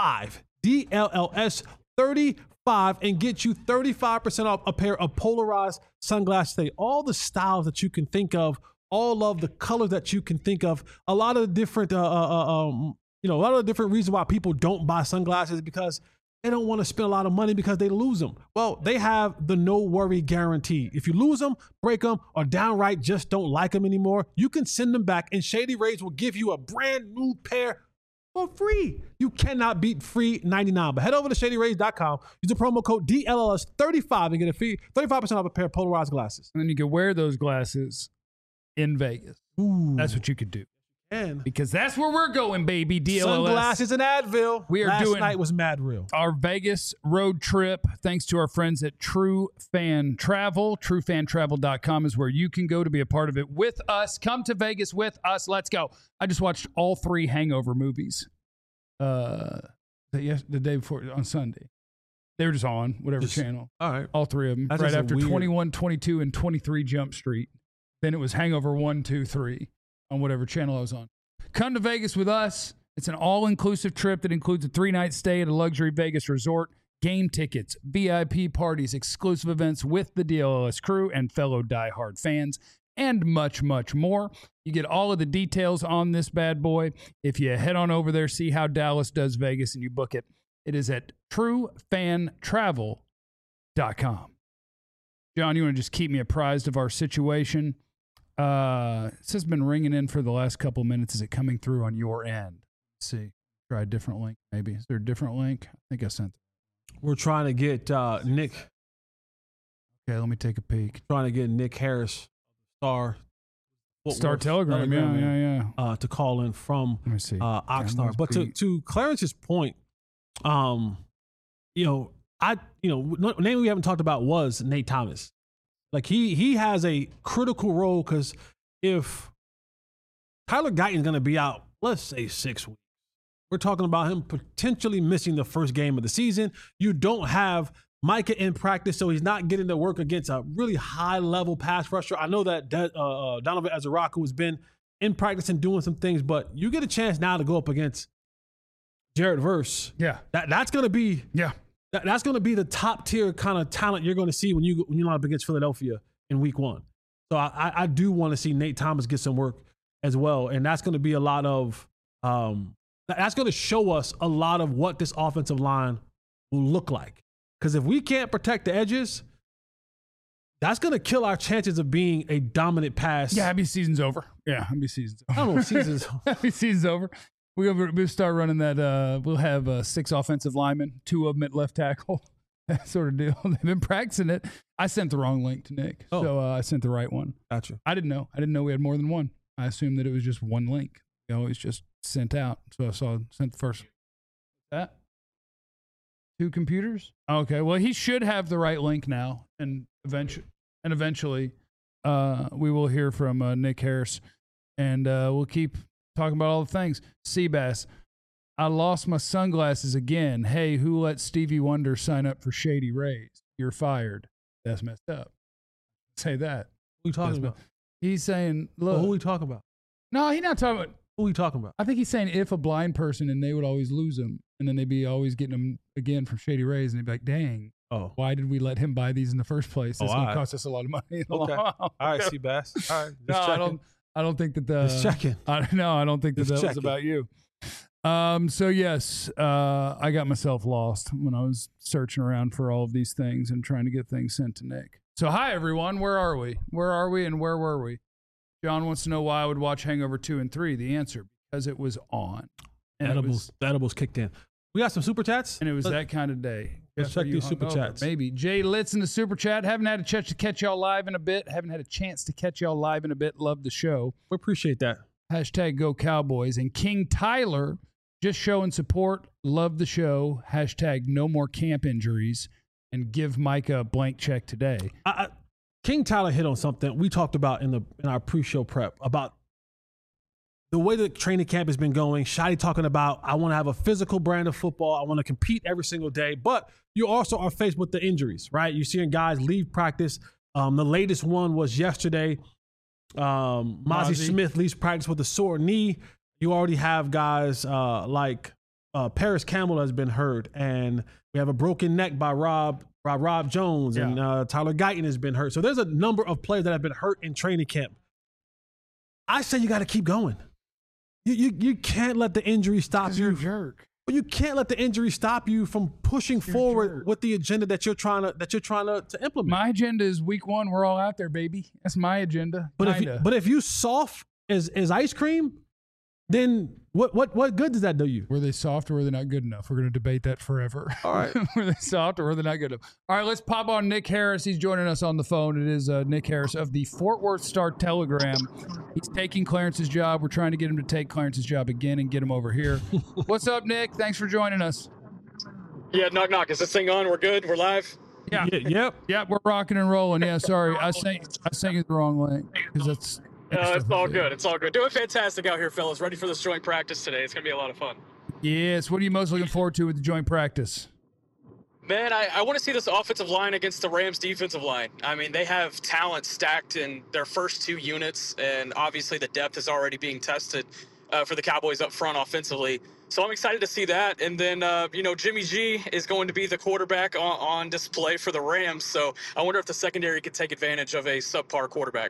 DLLS35 and get you 35% off a pair of polarized sunglasses today. All the styles that you can think of, all of the colors that you can think of, a lot of the different, a lot of the different reasons why people don't buy sunglasses because they don't want to spend a lot of money because they lose them. Well, they have the no worry guarantee. If you lose them, break them, or downright just don't like them anymore, you can send them back and Shady Rays will give you a brand new pair for free. You cannot beat free 99. But head over to ShadyRays.com, use the promo code DLLS35 and get a free 35% off a pair of polarized glasses. And then you can wear those glasses in Vegas. Ooh. That's what you could do. And Because that's where we're going, baby. DLLS. sunglasses and Advil. We are Last doing night was mad real. our Vegas road trip, thanks to our friends at True Fan Travel. TrueFanTravel.com is where you can go to be a part of it with us. Come to Vegas with us. Let's go. I just watched all 3 Hangover movies the day before on Sunday. They were just on whatever channel. All right. All 3 of them. That's right just a after weird- 21, 22, and 23 Jump Street. Then it was Hangover 1, 2, 3 on whatever channel I was on. Come to Vegas with us. It's an all-inclusive trip that includes a 3-night stay at a luxury Vegas resort, game tickets, VIP parties, exclusive events with the DLLS crew and fellow diehard fans, and much, much more. You get all of the details on this bad boy. If you head on over there, see how Dallas does Vegas, and you book it, it is at TrueFanTravel.com. John, you want to just keep me apprised of our situation? This has been ringing in for the last couple of minutes. Is it coming through on your end? Let's see. Try a different link, maybe. Is there a different link? I think I sent it. We're trying to get Nick. Okay, let me take a peek. Trying to get Nick Harris, Star Telegram, yeah. to call in from Let me see. Oxnard. But to Clarence's point, name we haven't talked about was Nate Thomas. Like he has a critical role because if Tyler Guyton's going to be out, let's say 6 weeks, we're talking about him potentially missing the first game of the season. You don't have Micah in practice, so he's not getting to work against a really high-level pass rusher. I know that Donovan Azaraku has been in practice and doing some things, but you get a chance now to go up against Jared Verse. Yeah. That's going to be that's going to be the top-tier kind of talent you're going to see when you line up against Philadelphia in week 1. So I do want to see Nate Thomas get some work as well, and that's going to be a lot of that's going to show us a lot of what this offensive line will look like. Because if we can't protect the edges, that's going to kill our chances of being a dominant pass. Yeah, happy season's over. Yeah, happy season's over. I don't know if season's happy season's over. We'll start running that. We'll have 6 offensive linemen, 2 of them at left tackle. That sort of deal. They've been practicing it. I sent the wrong link to Nick, so I sent the right one. Gotcha. I didn't know. We had more than one. I assumed that it was just one link. We always just sent out. So I sent the first. That 2 computers. Okay. Well, he should have the right link now, and eventually, we will hear from Nick Harris, and we'll keep talking about all the things. Seabass, I lost my sunglasses again. Hey, who let Stevie Wonder sign up for Shady Rays? You're fired. That's messed up. Say that. Who are you talking about? He's saying, look. Well, who are we talking about? No, he's not talking about. Who are we talking about? I think he's saying if a blind person and they would always lose them, and then they'd be always getting them again from Shady Rays, and they'd be like, dang. Oh, why did we let him buy these in the first place? It's going to cost us a lot of money. Okay. All right, Seabass. All right. No, I don't think that the. Just checking. I don't think that was about you. So yes, I got myself lost when I was searching around for all of these things and trying to get things sent to Nick. So hi everyone, where are we? Where are we and where were we? John wants to know why I would watch Hangover 2 and 3. The answer, because it was on. And the edibles kicked in. We got some super chats, and it was that kind of day. Let's check these super chats. Maybe Jay Litz in the super chat. Haven't had a chance to catch y'all live in a bit. Love the show. We appreciate that. Hashtag Go Cowboys. And King Tyler just showing support. Love the show. Hashtag no more camp injuries. and give Micah a blank check today. King Tyler hit on something we talked about in our pre-show prep about the way the training camp has been going. Shotty talking about, I want to have a physical brand of football. I want to compete every single day. But you also are faced with the injuries, right? You're seeing guys leave practice. The latest one was yesterday. Mozzie Smith leaves practice with a sore knee. You already have guys like Paris Campbell has been hurt, and we have a broken neck by Rob Jones, and Tyler Guyton has been hurt. So there's a number of players that have been hurt in training camp. I say you got to keep going. You can't let the injury stop you. You're a jerk. You can't let the injury stop you from pushing forward with the agenda that you're trying to implement. My agenda is week 1. We're all out there, baby. That's my agenda. But if you soft as ice cream, then what good does that do you? Were they soft or were they not good enough? We're going to debate that forever. All right. Were they soft or were they not good enough? All right, let's pop on Nick Harris. He's joining us on the phone. It is Nick Harris of the Fort Worth Star-Telegram. He's taking Clarence's job. We're trying to get him to take Clarence's job again and get him over here. What's up, Nick? Thanks for joining us. Yeah, knock, knock. Is this thing on? We're good? We're live? Yeah. Yep, we're rocking and rolling. Yeah, sorry. I sent you the wrong link because that's... it's all good. It's all good. Doing fantastic out here, fellas. Ready for this joint practice today. It's going to be a lot of fun. Yes. What are you most looking forward to with the joint practice? Man, I want to see this offensive line against the Rams defensive line. I mean, they have talent stacked in their first 2 units, and obviously the depth is already being tested for the Cowboys up front offensively. So I'm excited to see that. And then, Jimmy G is going to be the quarterback on display for the Rams. So I wonder if the secondary could take advantage of a subpar quarterback.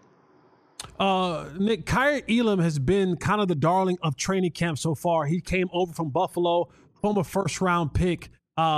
Nick, Kaiir Elam has been kind of the darling of training camp so far. He came over from Buffalo, former first-round pick.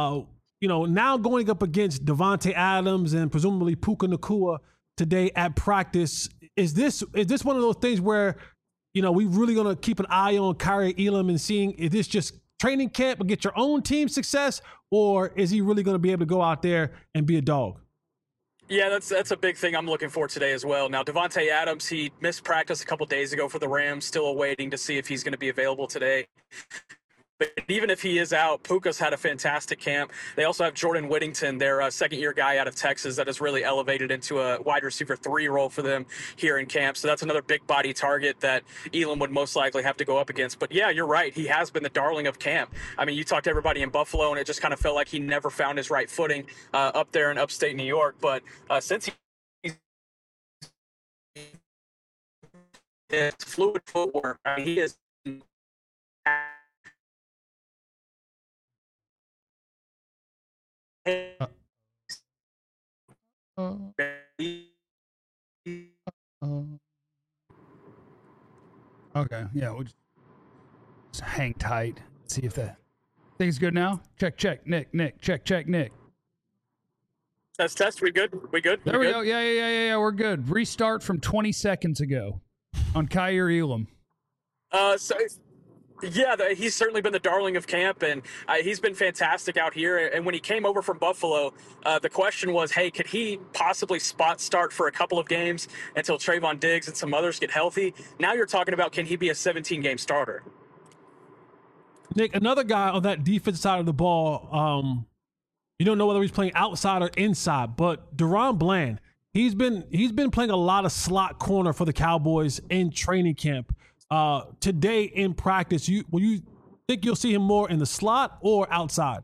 Now going up against Devontae Adams and presumably Puka Nacua today at practice. Is this one of those things where, we really going to keep an eye on Kaiir Elam and seeing, is this just training camp and get your own team success, or is he really going to be able to go out there and be a dog? Yeah, that's a big thing I'm looking for today as well. Now, Devontae Adams, he missed practice a couple days ago for the Rams, still awaiting to see if he's going to be available today. But even if he is out, Puka's had a fantastic camp. They also have Jordan Whittington, their second-year guy out of Texas that has really elevated into a wide receiver 3 role for them here in camp. So that's another big-body target that Elam would most likely have to go up against. But, yeah, you're right. He has been the darling of camp. I mean, you talked to everybody in Buffalo, and it just kind of felt like he never found his right footing up there in upstate New York. But since it's fluid footwork, I mean, he is Okay, yeah, we'll just hang tight. See if that thing's good now. Check. Nick. Check. Nick. Test. We good? There we go. Yeah. We're good. Restart from 20 seconds ago on Kaiir Elam. He's certainly been the darling of camp, and he's been fantastic out here. And when he came over from Buffalo, the question was, hey, could he possibly spot start for a couple of games until Trayvon Diggs and some others get healthy? Now you're talking about, can he be a 17-game starter? Nick, another guy on that defense side of the ball, you don't know whether he's playing outside or inside, but DaRon Bland, he's been playing a lot of slot corner for the Cowboys in training camp. Today in practice, will you think you'll see him more in the slot or outside?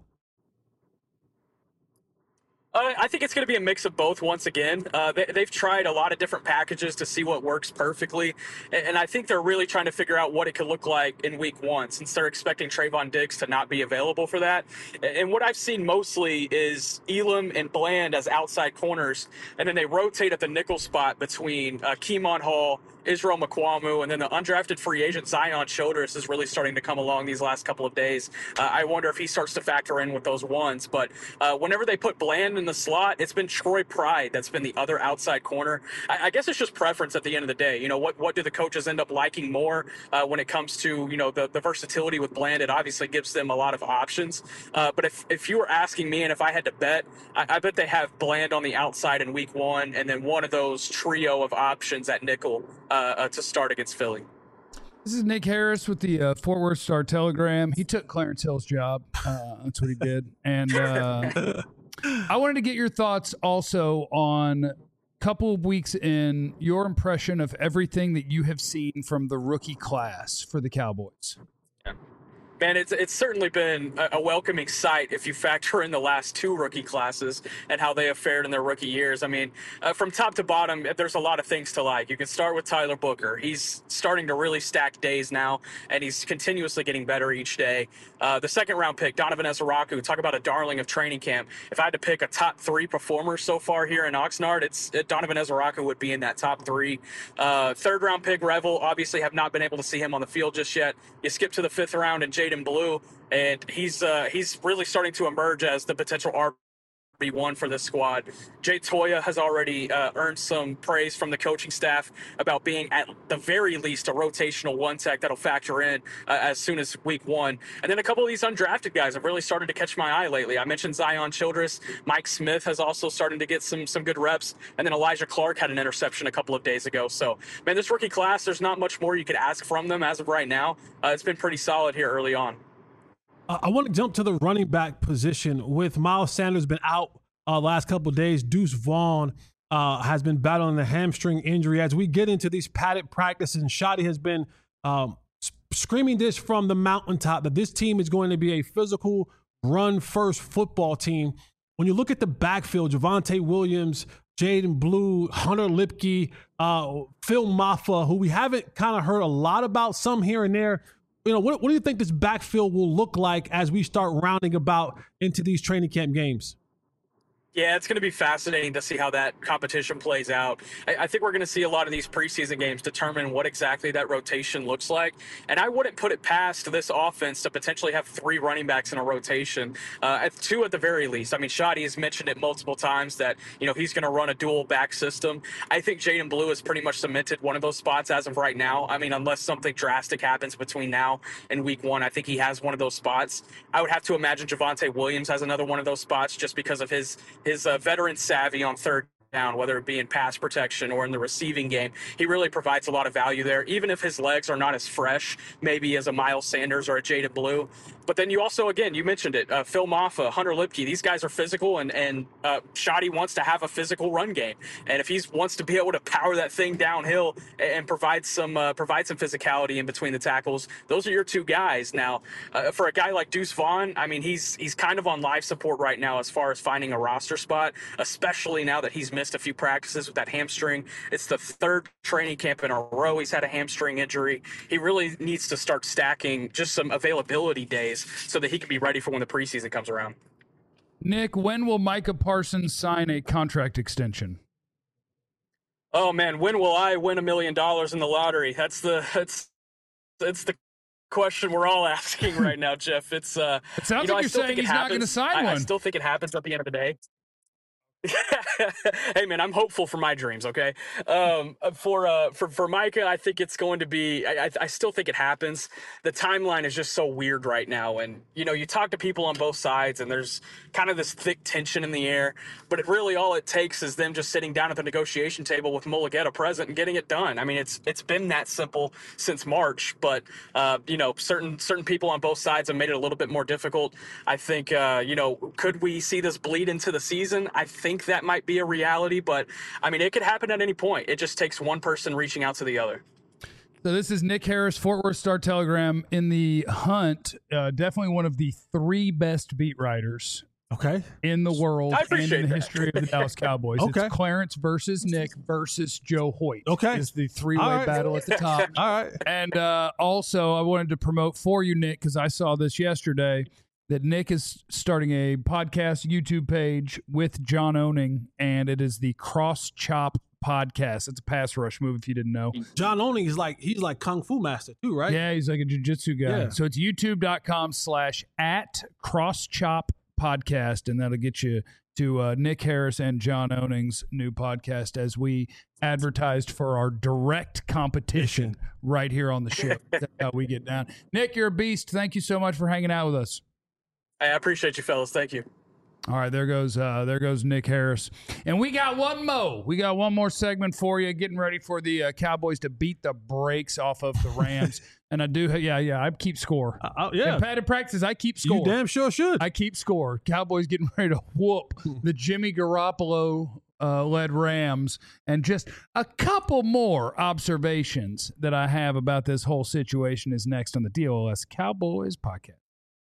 I think it's going to be a mix of both once again. They've tried a lot of different packages to see what works perfectly, and I think they're really trying to figure out what it could look like in week 1 since they're expecting Trayvon Diggs to not be available for that. And what I've seen mostly is Elam and Bland as outside corners, and then they rotate at the nickel spot between Keemon Hall, Israel Mukwamu, and then the undrafted free agent Zion Childress is really starting to come along these last couple of days. I wonder if he starts to factor in with those ones. But whenever they put Bland in the slot, it's been Troy Pride that's been the other outside corner. I guess it's just preference at the end of the day. What do the coaches end up liking more when it comes to, the versatility with Bland? It obviously gives them a lot of options. But if you were asking me and if I had to bet, I bet they have Bland on the outside in week 1 and then one of those trio of options at nickel to start against Philly. This is Nick Harris with the Fort Worth Star-Telegram. He took Clarence Hill's job. That's what he did. And I wanted to get your thoughts also on couple of weeks in, your impression of everything that you have seen from the rookie class for the Cowboys. Man, it's certainly been a welcoming sight if you factor in the last two rookie classes and how they have fared in their rookie years. I mean, from top to bottom, there's a lot of things to like. You can start with Tyler Booker. He's starting to really stack days now, and he's continuously getting better each day. The second-round pick, Donovan Ezaraku, talk about a darling of training camp. If I had to pick a top three performer so far here in Oxnard, it's Donovan Ezaraku would be in that top three. Third-round pick, Revel, obviously have not been able to see him on the field just yet. You skip to the fifth round, and Jaden Blue, and he's really starting to emerge as the potential RB1 for this squad. Jay Toya has already earned some praise from the coaching staff about being at the very least a rotational one tech that'll factor in as soon as week one. And then a couple of these undrafted guys have really started to catch my eye lately. I mentioned Zion Childress. Mike Smith has also started to get some good reps. And then Elijah Clark had an interception a couple of days ago. So, man, this rookie class, there's not much more you could ask from them as of right now. It's been pretty solid here early on. I want to jump to the running back position. With Miles Sanders been out last couple of days, Deuce Vaughn has been battling the hamstring injury. As we get into these padded practices, and Shotty has been screaming this from the mountaintop that this team is going to be a physical, run-first football team. When you look at the backfield, Javonte Williams, Jaden Blue, Hunter Lipke, Phil Maffa, who we haven't kind of heard a lot about, some here and there. You know, what do you think this backfield will look like as we start rounding about into these training camp games? Yeah, it's going to be fascinating to see how that competition plays out. I think we're going to see a lot of these preseason games determine what exactly that rotation looks like. And I wouldn't put it past this offense to potentially have three running backs in a rotation, two at the very least. I mean, Shotty has mentioned it multiple times that, you know, he's going to run a dual back system. I think Jaden Blue has pretty much cemented one of those spots as of right now. I mean, unless something drastic happens between now and week one, I think he has one of those spots. I would have to imagine Javonte Williams has another one of those spots just because of his veteran savvy on third down, whether it be in pass protection or in the receiving game. He really provides a lot of value there, even if his legs are not as fresh, maybe as a Miles Sanders or a Jaden Blue. But then you also, again, you mentioned it, Phil Maffa, Hunter Lipke, these guys are physical, and Shotty wants to have a physical run game. And if he wants to be able to power that thing downhill and provide some physicality in between the tackles, those are your two guys. Now, for a guy like Deuce Vaughn, I mean, he's kind of on life support right now as far as finding a roster spot, especially now that he's missed a few practices with that hamstring. It's the third training camp in a row he's had a hamstring injury. He really needs to start stacking just some availability days so that he can be ready for when the preseason comes around. Nick, when will Micah Parsons sign a contract extension? Oh man, when will I win $1 million in the lottery? That's the question we're all asking right now, Jeff. It sounds like you're saying he's not going to sign one. I still think it happens at the end of the day. Hey man, I'm hopeful for my dreams. Okay, for Micah, I think it's going to be. I still think it happens. The timeline is just so weird right now, and you know, you talk to people on both sides, and there's kind of this thick tension in the air. But it really all it takes is them just sitting down at the negotiation table with Mulugeta present and getting it done. I mean, it's been that simple since March, but you know, certain people on both sides have made it a little bit more difficult. I think you know, could we see this bleed into the season? I think that might be a reality, but I mean, it could happen at any point. It just takes one person reaching out to the other. So this is Nick Harris, Fort Worth Star-Telegram, in the hunt. Definitely one of the three best beat writers in the world and in the history of the Dallas Cowboys. It's Clarence versus Nick versus Joe Hoyt. Is the three-way battle at the top. All right. And also, I wanted to promote for you, Nick, because I saw this yesterday, that Nick is starting a podcast YouTube page with John Owning, and it is the Cross Chop Podcast. It's a pass rush move, if you didn't know. John Owning is he's like Kung Fu master too, right? Yeah, he's like a jiu-jitsu guy. Yeah. So it's youtube.com/@CrossChopPodcast, and that'll get you to Nick Harris and John Owning's new podcast as we advertised for our direct competition right here on the show. That's how we get down. Nick, you're a beast. Thank you so much for hanging out with us. I appreciate you, fellas. Thank you. All right, there goes Nick Harris. And we got one more. We got one more segment for you, getting ready for the Cowboys to beat the brakes off of the Rams. And I do, I keep score. Yeah. In padded practice, I keep score. You damn sure should. I keep score. Cowboys getting ready to whoop the Jimmy Garoppolo led Rams. And just a couple more observations that I have about this whole situation is next on the DLS Cowboys podcast.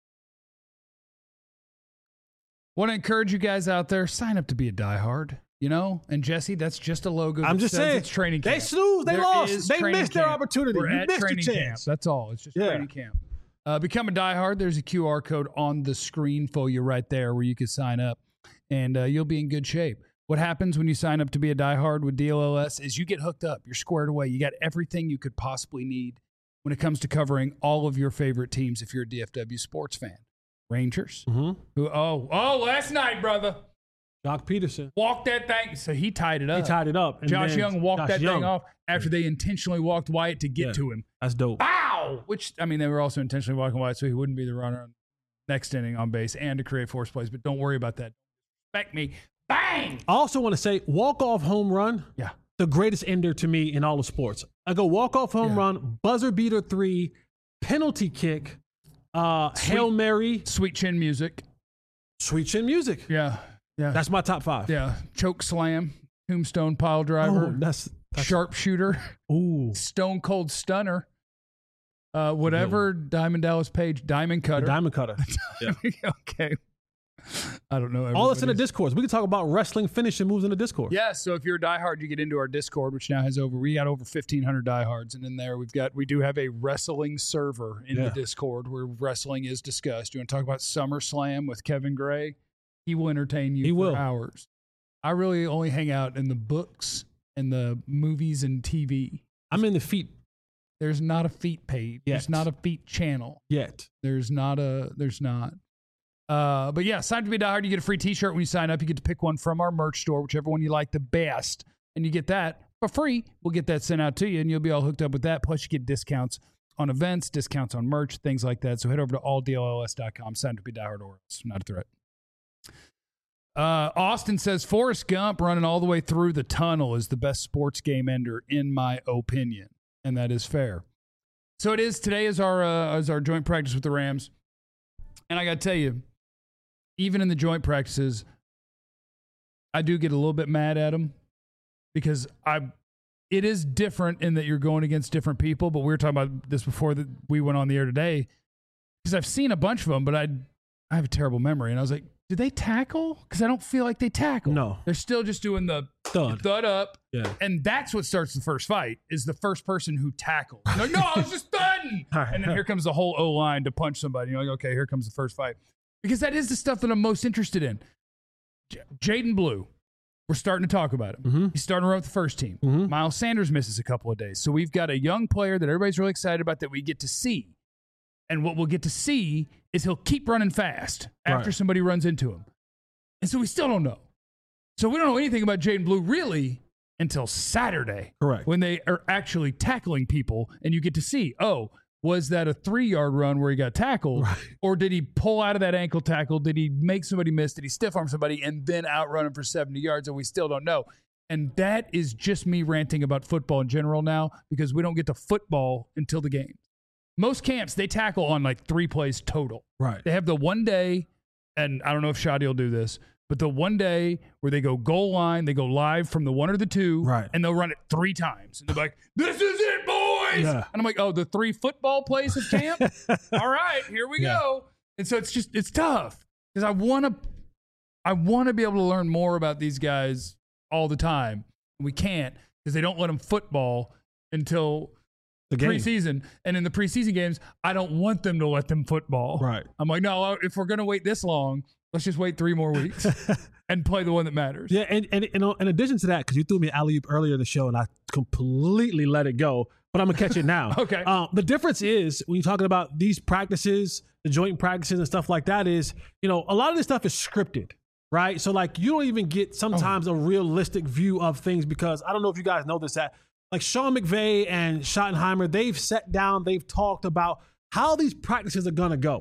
Want to encourage you guys out there, sign up to be a diehard, And Jesse, that's just a logo. I'm just saying, it's training camp. They snoozed, they lost, they missed their opportunity. We're at missed training your camp. chance. That's all. It's just training camp. Become a diehard. There's a QR code on the screen for you right there where you can sign up, and you'll be in good shape. What happens when you sign up to be a diehard with DLS is you get hooked up. You're squared away. You got everything you could possibly need when it comes to covering all of your favorite teams if you're a DFW sports fan. Rangers, who last night, brother, Doc Peterson walked that thing. So he tied it up. He tied it up. And Josh Young walked that thing off after they intentionally walked Wyatt to get to him. That's dope. Wow! Which, they were also intentionally walking Wyatt so he wouldn't be the runner on next inning on base and to create force plays. But don't worry about that. Respect me. Bang! I also want to say, walk-off home run. Yeah. The greatest ender to me in all of sports. I go walk-off home run, buzzer beater 3, penalty kick, Hail Mary. Sweet chin music. Sweet chin music. Yeah. Yeah. That's my top 5. Yeah. Choke slam, tombstone pile driver. Oh, that's sharpshooter. Ooh. Stone cold stunner. Whatever Diamond Dallas Page, diamond cutter. The diamond cutter. Yeah. Okay. I don't know. All that's in the Discord. We can talk about wrestling finishing moves in the Discord. Yeah, so if you're a diehard, you get into our Discord, which now has we got over 1,500 diehards, and in there we do have a wrestling server in the Discord where wrestling is discussed. You want to talk about SummerSlam with Kevin Gray? He will entertain you for hours. I really only hang out in the books and the movies and TV. I'm in the feet. There's not a feet page. There's not a feet channel. Yet. There's not. But yeah, sign up to be a diehard. You get a free t-shirt when you sign up. You get to pick one from our merch store, whichever one you like the best. And you get that for free. We'll get that sent out to you, and you'll be all hooked up with that. Plus, you get discounts on events, discounts on merch, things like that. So head over to alldlls.com. Sign up to be a diehard, or it's not a threat. Austin says, Forrest Gump running all the way through the tunnel is the best sports game ender, in my opinion. And that is fair. So it is. Today is our joint practice with the Rams. And I got to tell you, even in the joint practices, I do get a little bit mad at them because it is different in that you're going against different people. But we were talking about this before that we went on the air today because I've seen a bunch of them, but I have a terrible memory. And I was like, did they tackle? Because I don't feel like they tackle. No. They're still just doing the thud up. Yeah. And that's what starts the first fight is the first person who tackles. Like, no, I was just thudding. And then here comes the whole O-line to punch somebody. You're like, okay, here comes the first fight. Because that is the stuff that I'm most interested in. Jaden Blue, we're starting to talk about him. Mm-hmm. He's starting to run with the first team. Mm-hmm. Miles Sanders misses a couple of days. So we've got a young player that everybody's really excited about that we get to see. And what we'll get to see is he'll keep running fast after somebody runs into him. And so we still don't know. So we don't know anything about Jaden Blue really until Saturday. Correct. When they are actually tackling people and you get to see, was that a 3-yard run where he got tackled? Right. Or did he pull out of that ankle tackle? Did he make somebody miss? Did he stiff arm somebody and then outrun him for 70 yards? And we still don't know. And that is just me ranting about football in general now because we don't get to football until the game. Most camps, they tackle on like 3 plays total. Right. They have the one day, and I don't know if Shadi will do this, but the one day where they go goal line, they go live from the 1 or the 2, and they'll run it 3 times. And they're like, this is it, boys! Yeah. And I'm like, the 3 football plays of camp? All right, here we go. And so it's tough because I want to be able to learn more about these guys all the time. And we can't because they don't let them football until the preseason. And in the preseason games, I don't want them to let them football. Right. I'm like, no, if we're going to wait this long, let's just wait 3 more weeks and play the one that matters. Yeah, and in addition to that, because you threw me alley-oop earlier in the show and I completely let it go, but I'm going to catch it now. Okay. The difference is when you're talking about these practices, the joint practices and stuff like that is, a lot of this stuff is scripted, right? So, like, you don't even get sometimes a realistic view of things because I don't know if you guys know this, that like Sean McVay and Schottenheimer, they've sat down, they've talked about how these practices are going to go.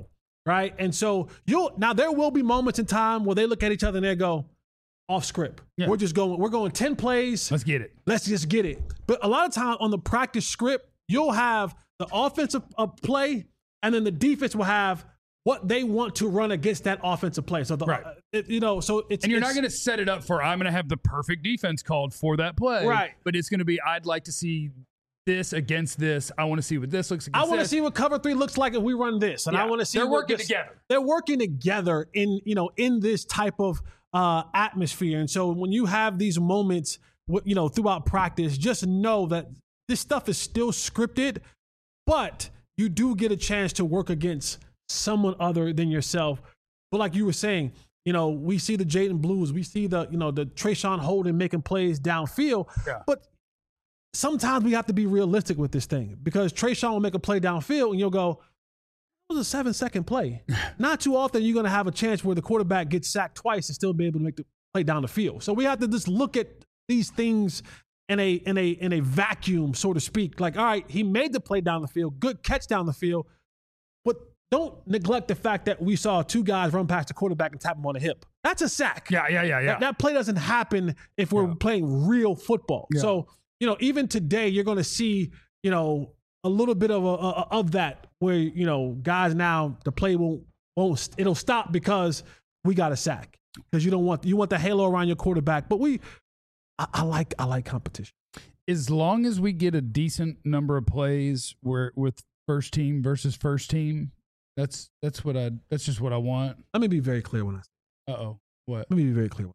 right? And so now there will be moments in time where they look at each other and they go, off script. Yeah. We're going 10 plays. Let's get it. Let's just get it. But a lot of time on the practice script, you'll have the offensive play, and then the defense will have what they want to run against that offensive play. So Right. So it's And you're not going to set it up for I'm going to have the perfect defense called for that play. Right. But it's going to be I'd like to see this against this. I want to see what this looks against I want to this. see what cover 3 looks like if we run this, and I Yeah. want to see They're what working this- together. They're working together in this type of atmosphere. And so when you have these moments, throughout practice, just know that this stuff is still scripted, but you do get a chance to work against someone other than yourself. But like you were saying, we see the Jaden Blues, we see the Trayshawn Holden making plays downfield, but sometimes we have to be realistic with this thing, because Trayshawn will make a play downfield and you'll go, it was a 7-second play. Not too often you're going to have a chance where the quarterback gets sacked twice and still be able to make the play down the field. So we have to just look at these things in a vacuum, so to speak. Like, all right, he made the play down the field, good catch down the field, but don't neglect the fact that we saw 2 guys run past the quarterback and tap him on the hip. That's a sack. Yeah. That play doesn't happen if we're playing real football. Yeah. So, even today you're going to see, a little bit of that where, guys now the play it'll stop because we got a sack, because you want the halo around your quarterback. But I like competition. As long as we get a decent number of plays with first team versus first team, that's just what I want. Let me be very clear when I say. Uh-oh. What? Let me be very clear.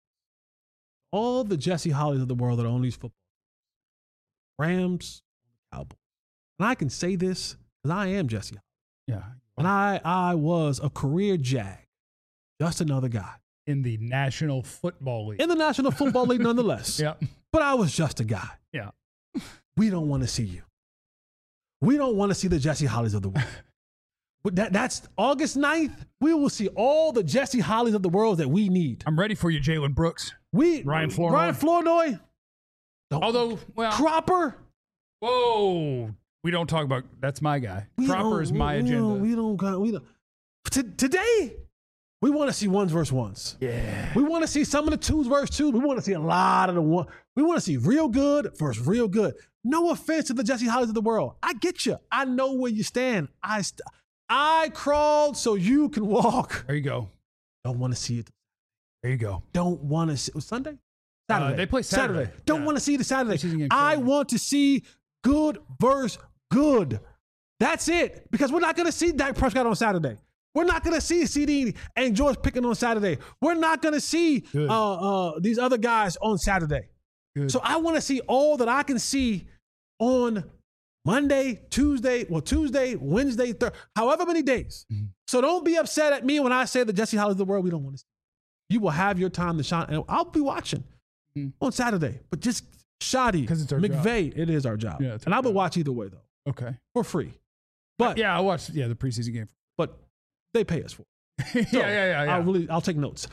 All the Jesse Hollies of the world that own these football teams, Rams, Cowboys. And I can say this because I am Jesse Holly. Yeah. And I was a career Jag, just another guy. In the National Football League. In the National Football League nonetheless. Yeah. But I was just a guy. Yeah. We don't want to see you. We don't want to see the Jesse Hollies of the world. But that's August 9th. We will see all the Jesse Hollies of the world that we need. I'm ready for you, Jalen Brooks. Ryan Flournoy. Ryan Flournoy. Although, well. Cropper. Whoa. We don't talk about, that's my guy. Cropper is my agenda. We don't. Today, we want to see ones versus ones. Yeah. We want to see some of the twos versus twos. We want to see a lot of the one. We want to see real good versus real good. No offense to the Jesse Hollies of the world. I get you. I know where you stand. I crawled so you can walk. There you go. Don't want to see it. There you go. Don't want to see it. Was Sunday? Saturday. They play Saturday. Don't want to see the Saturday. I want to see good versus good. That's it. Because we're not going to see Dak Prescott on Saturday. We're not going to see CD and George Pickens on Saturday. We're not going to see these other guys on Saturday. Good. So I want to see all that I can see on Monday, Tuesday, Wednesday, Thursday, however many days. Mm-hmm. So don't be upset at me when I say the Jesse Hollies of the world we don't want to see. You will have your time to shine, and I'll be watching on Saturday. But just shoddy, McVay, it is our job. Yeah, and I will watch either way, though. Okay. For free. But I watched the preseason game. But they pay us for it. So yeah. I'll take notes.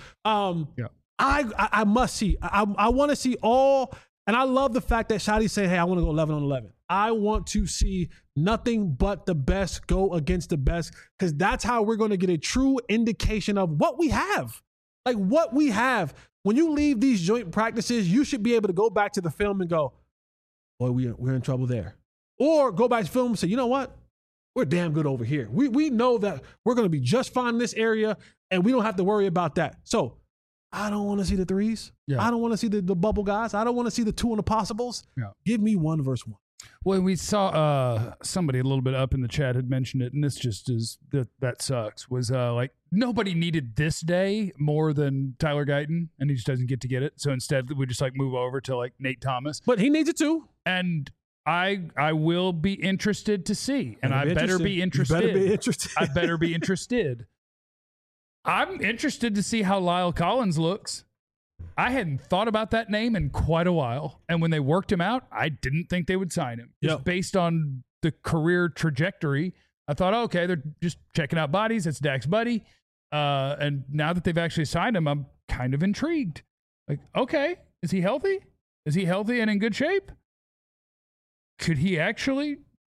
I must see. I want to see all, and I love the fact that Shotty's saying, hey, I want to go 11 on 11. I want to see nothing but the best go against the best, because that's how we're going to get a true indication of what we have. Like what we have. When you leave these joint practices, you should be able to go back to the film and go, boy, we're in trouble there. Or go back to film and say, you know what? We're damn good over here. We know that we're going to be just fine in this area, and we don't have to worry about that. So I don't want to see the threes. Yeah. I don't want to see the bubble guys. I don't want to see the 2 impossibles. Yeah. Give me 1 versus 1. Well, we saw somebody a little bit up in the chat had mentioned it, and this just is that sucks. Was like nobody needed this day more than Tyler Guyton, and he just doesn't get to get it. So instead, we just like move over to like Nate Thomas. But he needs it too. And I will be interested to see, and I better be interested. You better be interested. I better be interested. I'm interested to see how Lyle Collins looks. I hadn't thought about that name in quite a while. And when they worked him out, I didn't think they would sign him. Just based on the career trajectory, I thought, okay, they're just checking out bodies. It's Dak's buddy. And now that they've actually signed him, I'm kind of intrigued. Like, okay, is he healthy? Is he healthy and in good shape? Could he actually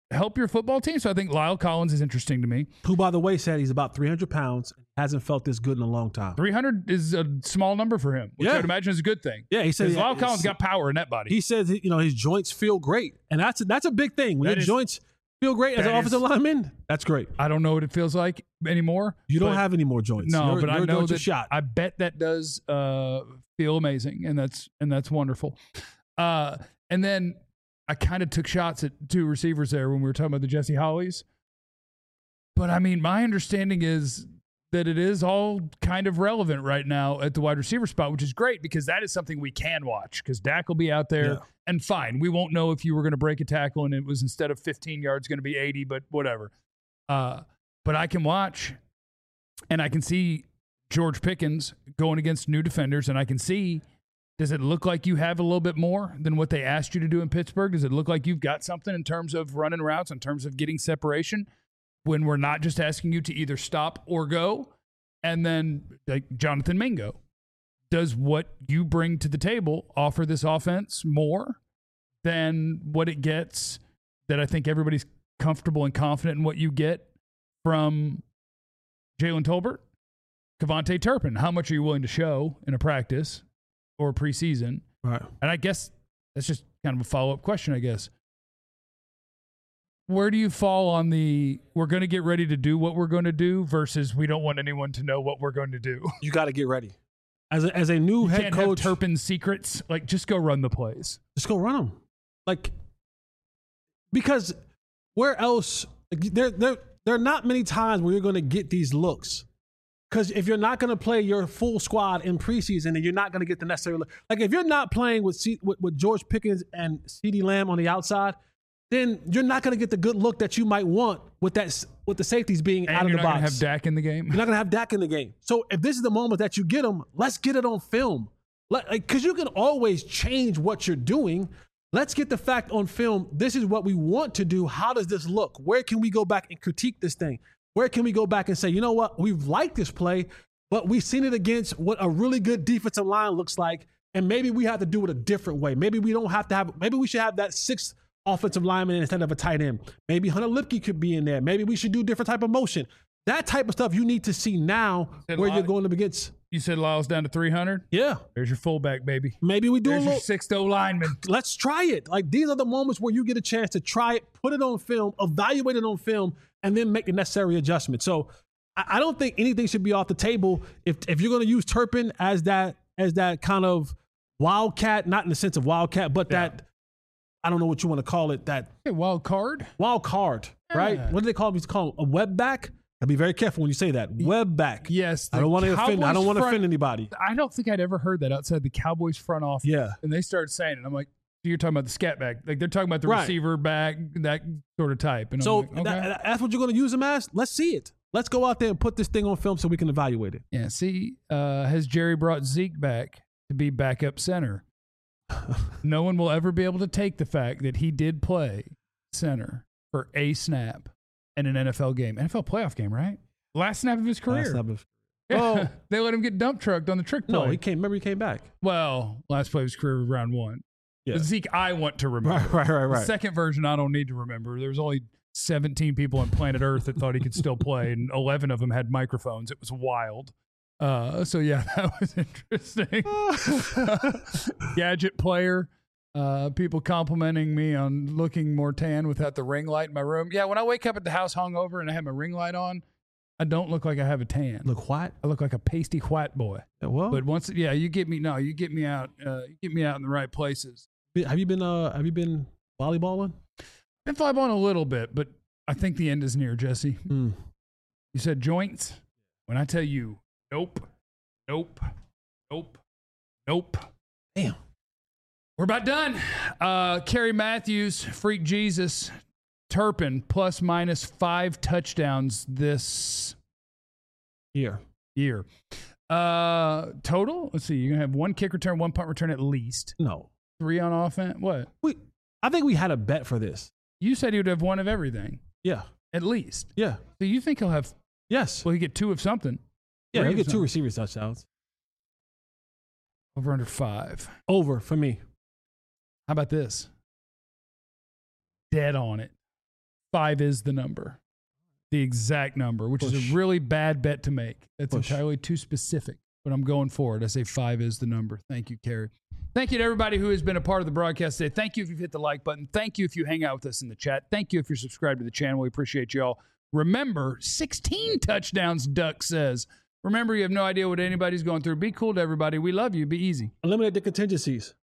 help your football team. So I think Lyle Collins is interesting to me. Who, by the way, said he's about 300 pounds, hasn't felt this good in a long time. 300 is a small number for him, which Yeah. I'd imagine is a good thing. Yeah, he said Lyle Collins got power in that body. He says, his joints feel great, and that's a big thing. When your joints feel great as an offensive lineman, that's great. I don't know what it feels like anymore. You don't have any more joints. No, but I know joints are that. shot. I bet that does feel amazing, and that's wonderful. And then I kind of took shots at two receivers there when we were talking about the Jesse Hollies. But I mean, my understanding is that it is all kind of relevant right now at the wide receiver spot, which is great because that is something we can watch because Dak will be out there. Yeah. And fine, we won't know if you were going to break a tackle and it was instead of 15 yards going to be 80, but whatever. But I can watch and I can see George Pickens going against new defenders, and I can see, does it look like you have a little bit more than what they asked you to do in Pittsburgh? Does it look like you've got something in terms of running routes, in terms of getting separation, when we're not just asking you to either stop or go? And then, like Jonathan Mingo, does what you bring to the table offer this offense more than what it gets, that I think everybody's comfortable and confident in what you get from Jalen Tolbert? Kevontae Turpin, how much are you willing to show in a practice or preseason? Right. And I guess that's just kind of a follow-up question, I guess. Where do you fall on the we're going to get ready to do what we're going to do versus we don't want anyone to know what we're going to do? You got to get ready. As a new You head can't coach, have Turpin's secrets. Like, just go run the plays. just go run them. Like, because where else? Like, there are not many times where you're going to get these looks. Because if you're not going to play your full squad in preseason, then you're not going to get the necessary look. Like, if you're not playing with George Pickens and CeeDee Lamb on the outside, then you're not going to get the good look that you might want with the safeties being And out of you're the not box. going to have Dak in the game. You're not going to have Dak in the game. So if this is the moment that you get them, let's get it on film. Because you can always change what you're doing. Let's get the fact on film. This is what we want to do. How does this look? Where can we go back and critique this thing? Where can we go back and say, you know what? We've liked this play, but we've seen it against what a really good defensive line looks like. And maybe we have to do it a different way. Maybe we don't have to have, maybe we should have that sixth offensive lineman instead of a tight end. Maybe Hunter Lipke could be in there. Maybe we should do different type of motion. That type of stuff you need to see now where you're going up against. You said Lyle's down to 300? Yeah. There's your fullback, baby. Maybe we do There's a your little. sixth O lineman. Let's try it. Like, these are the moments where you get a chance to try it, put it on film, evaluate it on film, and then make the necessary adjustment. So I don't think anything should be off the table. If you're going to use Turpin as that kind of wildcat, not in the sense of wildcat, but that, I don't know what you want to call it, that Hey, wild card? wild card, right? Yeah. What do they call him? He's called a web back. I'd be very careful when you say that. Web back. Yes. I don't want to offend. I don't want to Cowboys offend anybody. I don't think I'd ever heard that outside the Cowboys front office. Yeah. And they started saying it. I'm like, so you're talking about the scat back. Like, they're talking about the Right. receiver back, that sort of type. And So I'm like, okay. that's what you're going to use him as? Let's see it. Let's go out there and put this thing on film so we can evaluate it. Yeah, see, has Jerry brought Zeke back to be backup center? No one will ever be able to take the fact that he did play center for a snap in an NFL game. NFL playoff game, right? Last snap of his career. Yeah. Oh. They let him get dump trucked on the trick play. No, he came back. Well, last play of his career was round one. Yeah. The Zeke I want to remember. Right. The second version I don't need to remember. There was only 17 people on planet Earth that thought he could still play, and 11 of them had microphones. It was wild. So yeah, that was interesting. Gadget player. People complimenting me on looking more tan without the ring light in my room. Yeah, when I wake up at the house hungover and I have my ring light on, I don't look like I have a tan. Look what? I look like a pasty white boy. Well, But once, you get me out. You get me out in the right places. have you been volleyballing? Been flyballing a little bit, but I think the end is near, Jesse. Mm. You said joints. When I tell you, nope. Damn. We're about done. Kerry Matthews, Freak Jesus, Turpin, plus minus 5 touchdowns this Here. year. Total, let's see. You're going to have 1 kick return, 1 punt return at least. No. 3 on offense. What? I think we had a bet for this. You said he would have 1 of everything, Yeah. at least. Yeah. So you think he'll have, Yes. well, he get 2 of something. Yeah, 3 he'll of get 2 receiver touchdowns. Over under 5. Over for me. How about this? Dead on it. 5 is the number. The exact number, which is a really bad bet to make. That's entirely too specific, but I'm going for it. I say 5 is the number. Thank you, Carrie. Thank you to everybody who has been a part of the broadcast today. Thank you if you've hit the like button. Thank you if you hang out with us in the chat. Thank you if you're subscribed to the channel. We appreciate you all. Remember, 16 touchdowns, Duck says. Remember, you have no idea what anybody's going through. Be cool to everybody. We love you. Be easy. Eliminate the contingencies.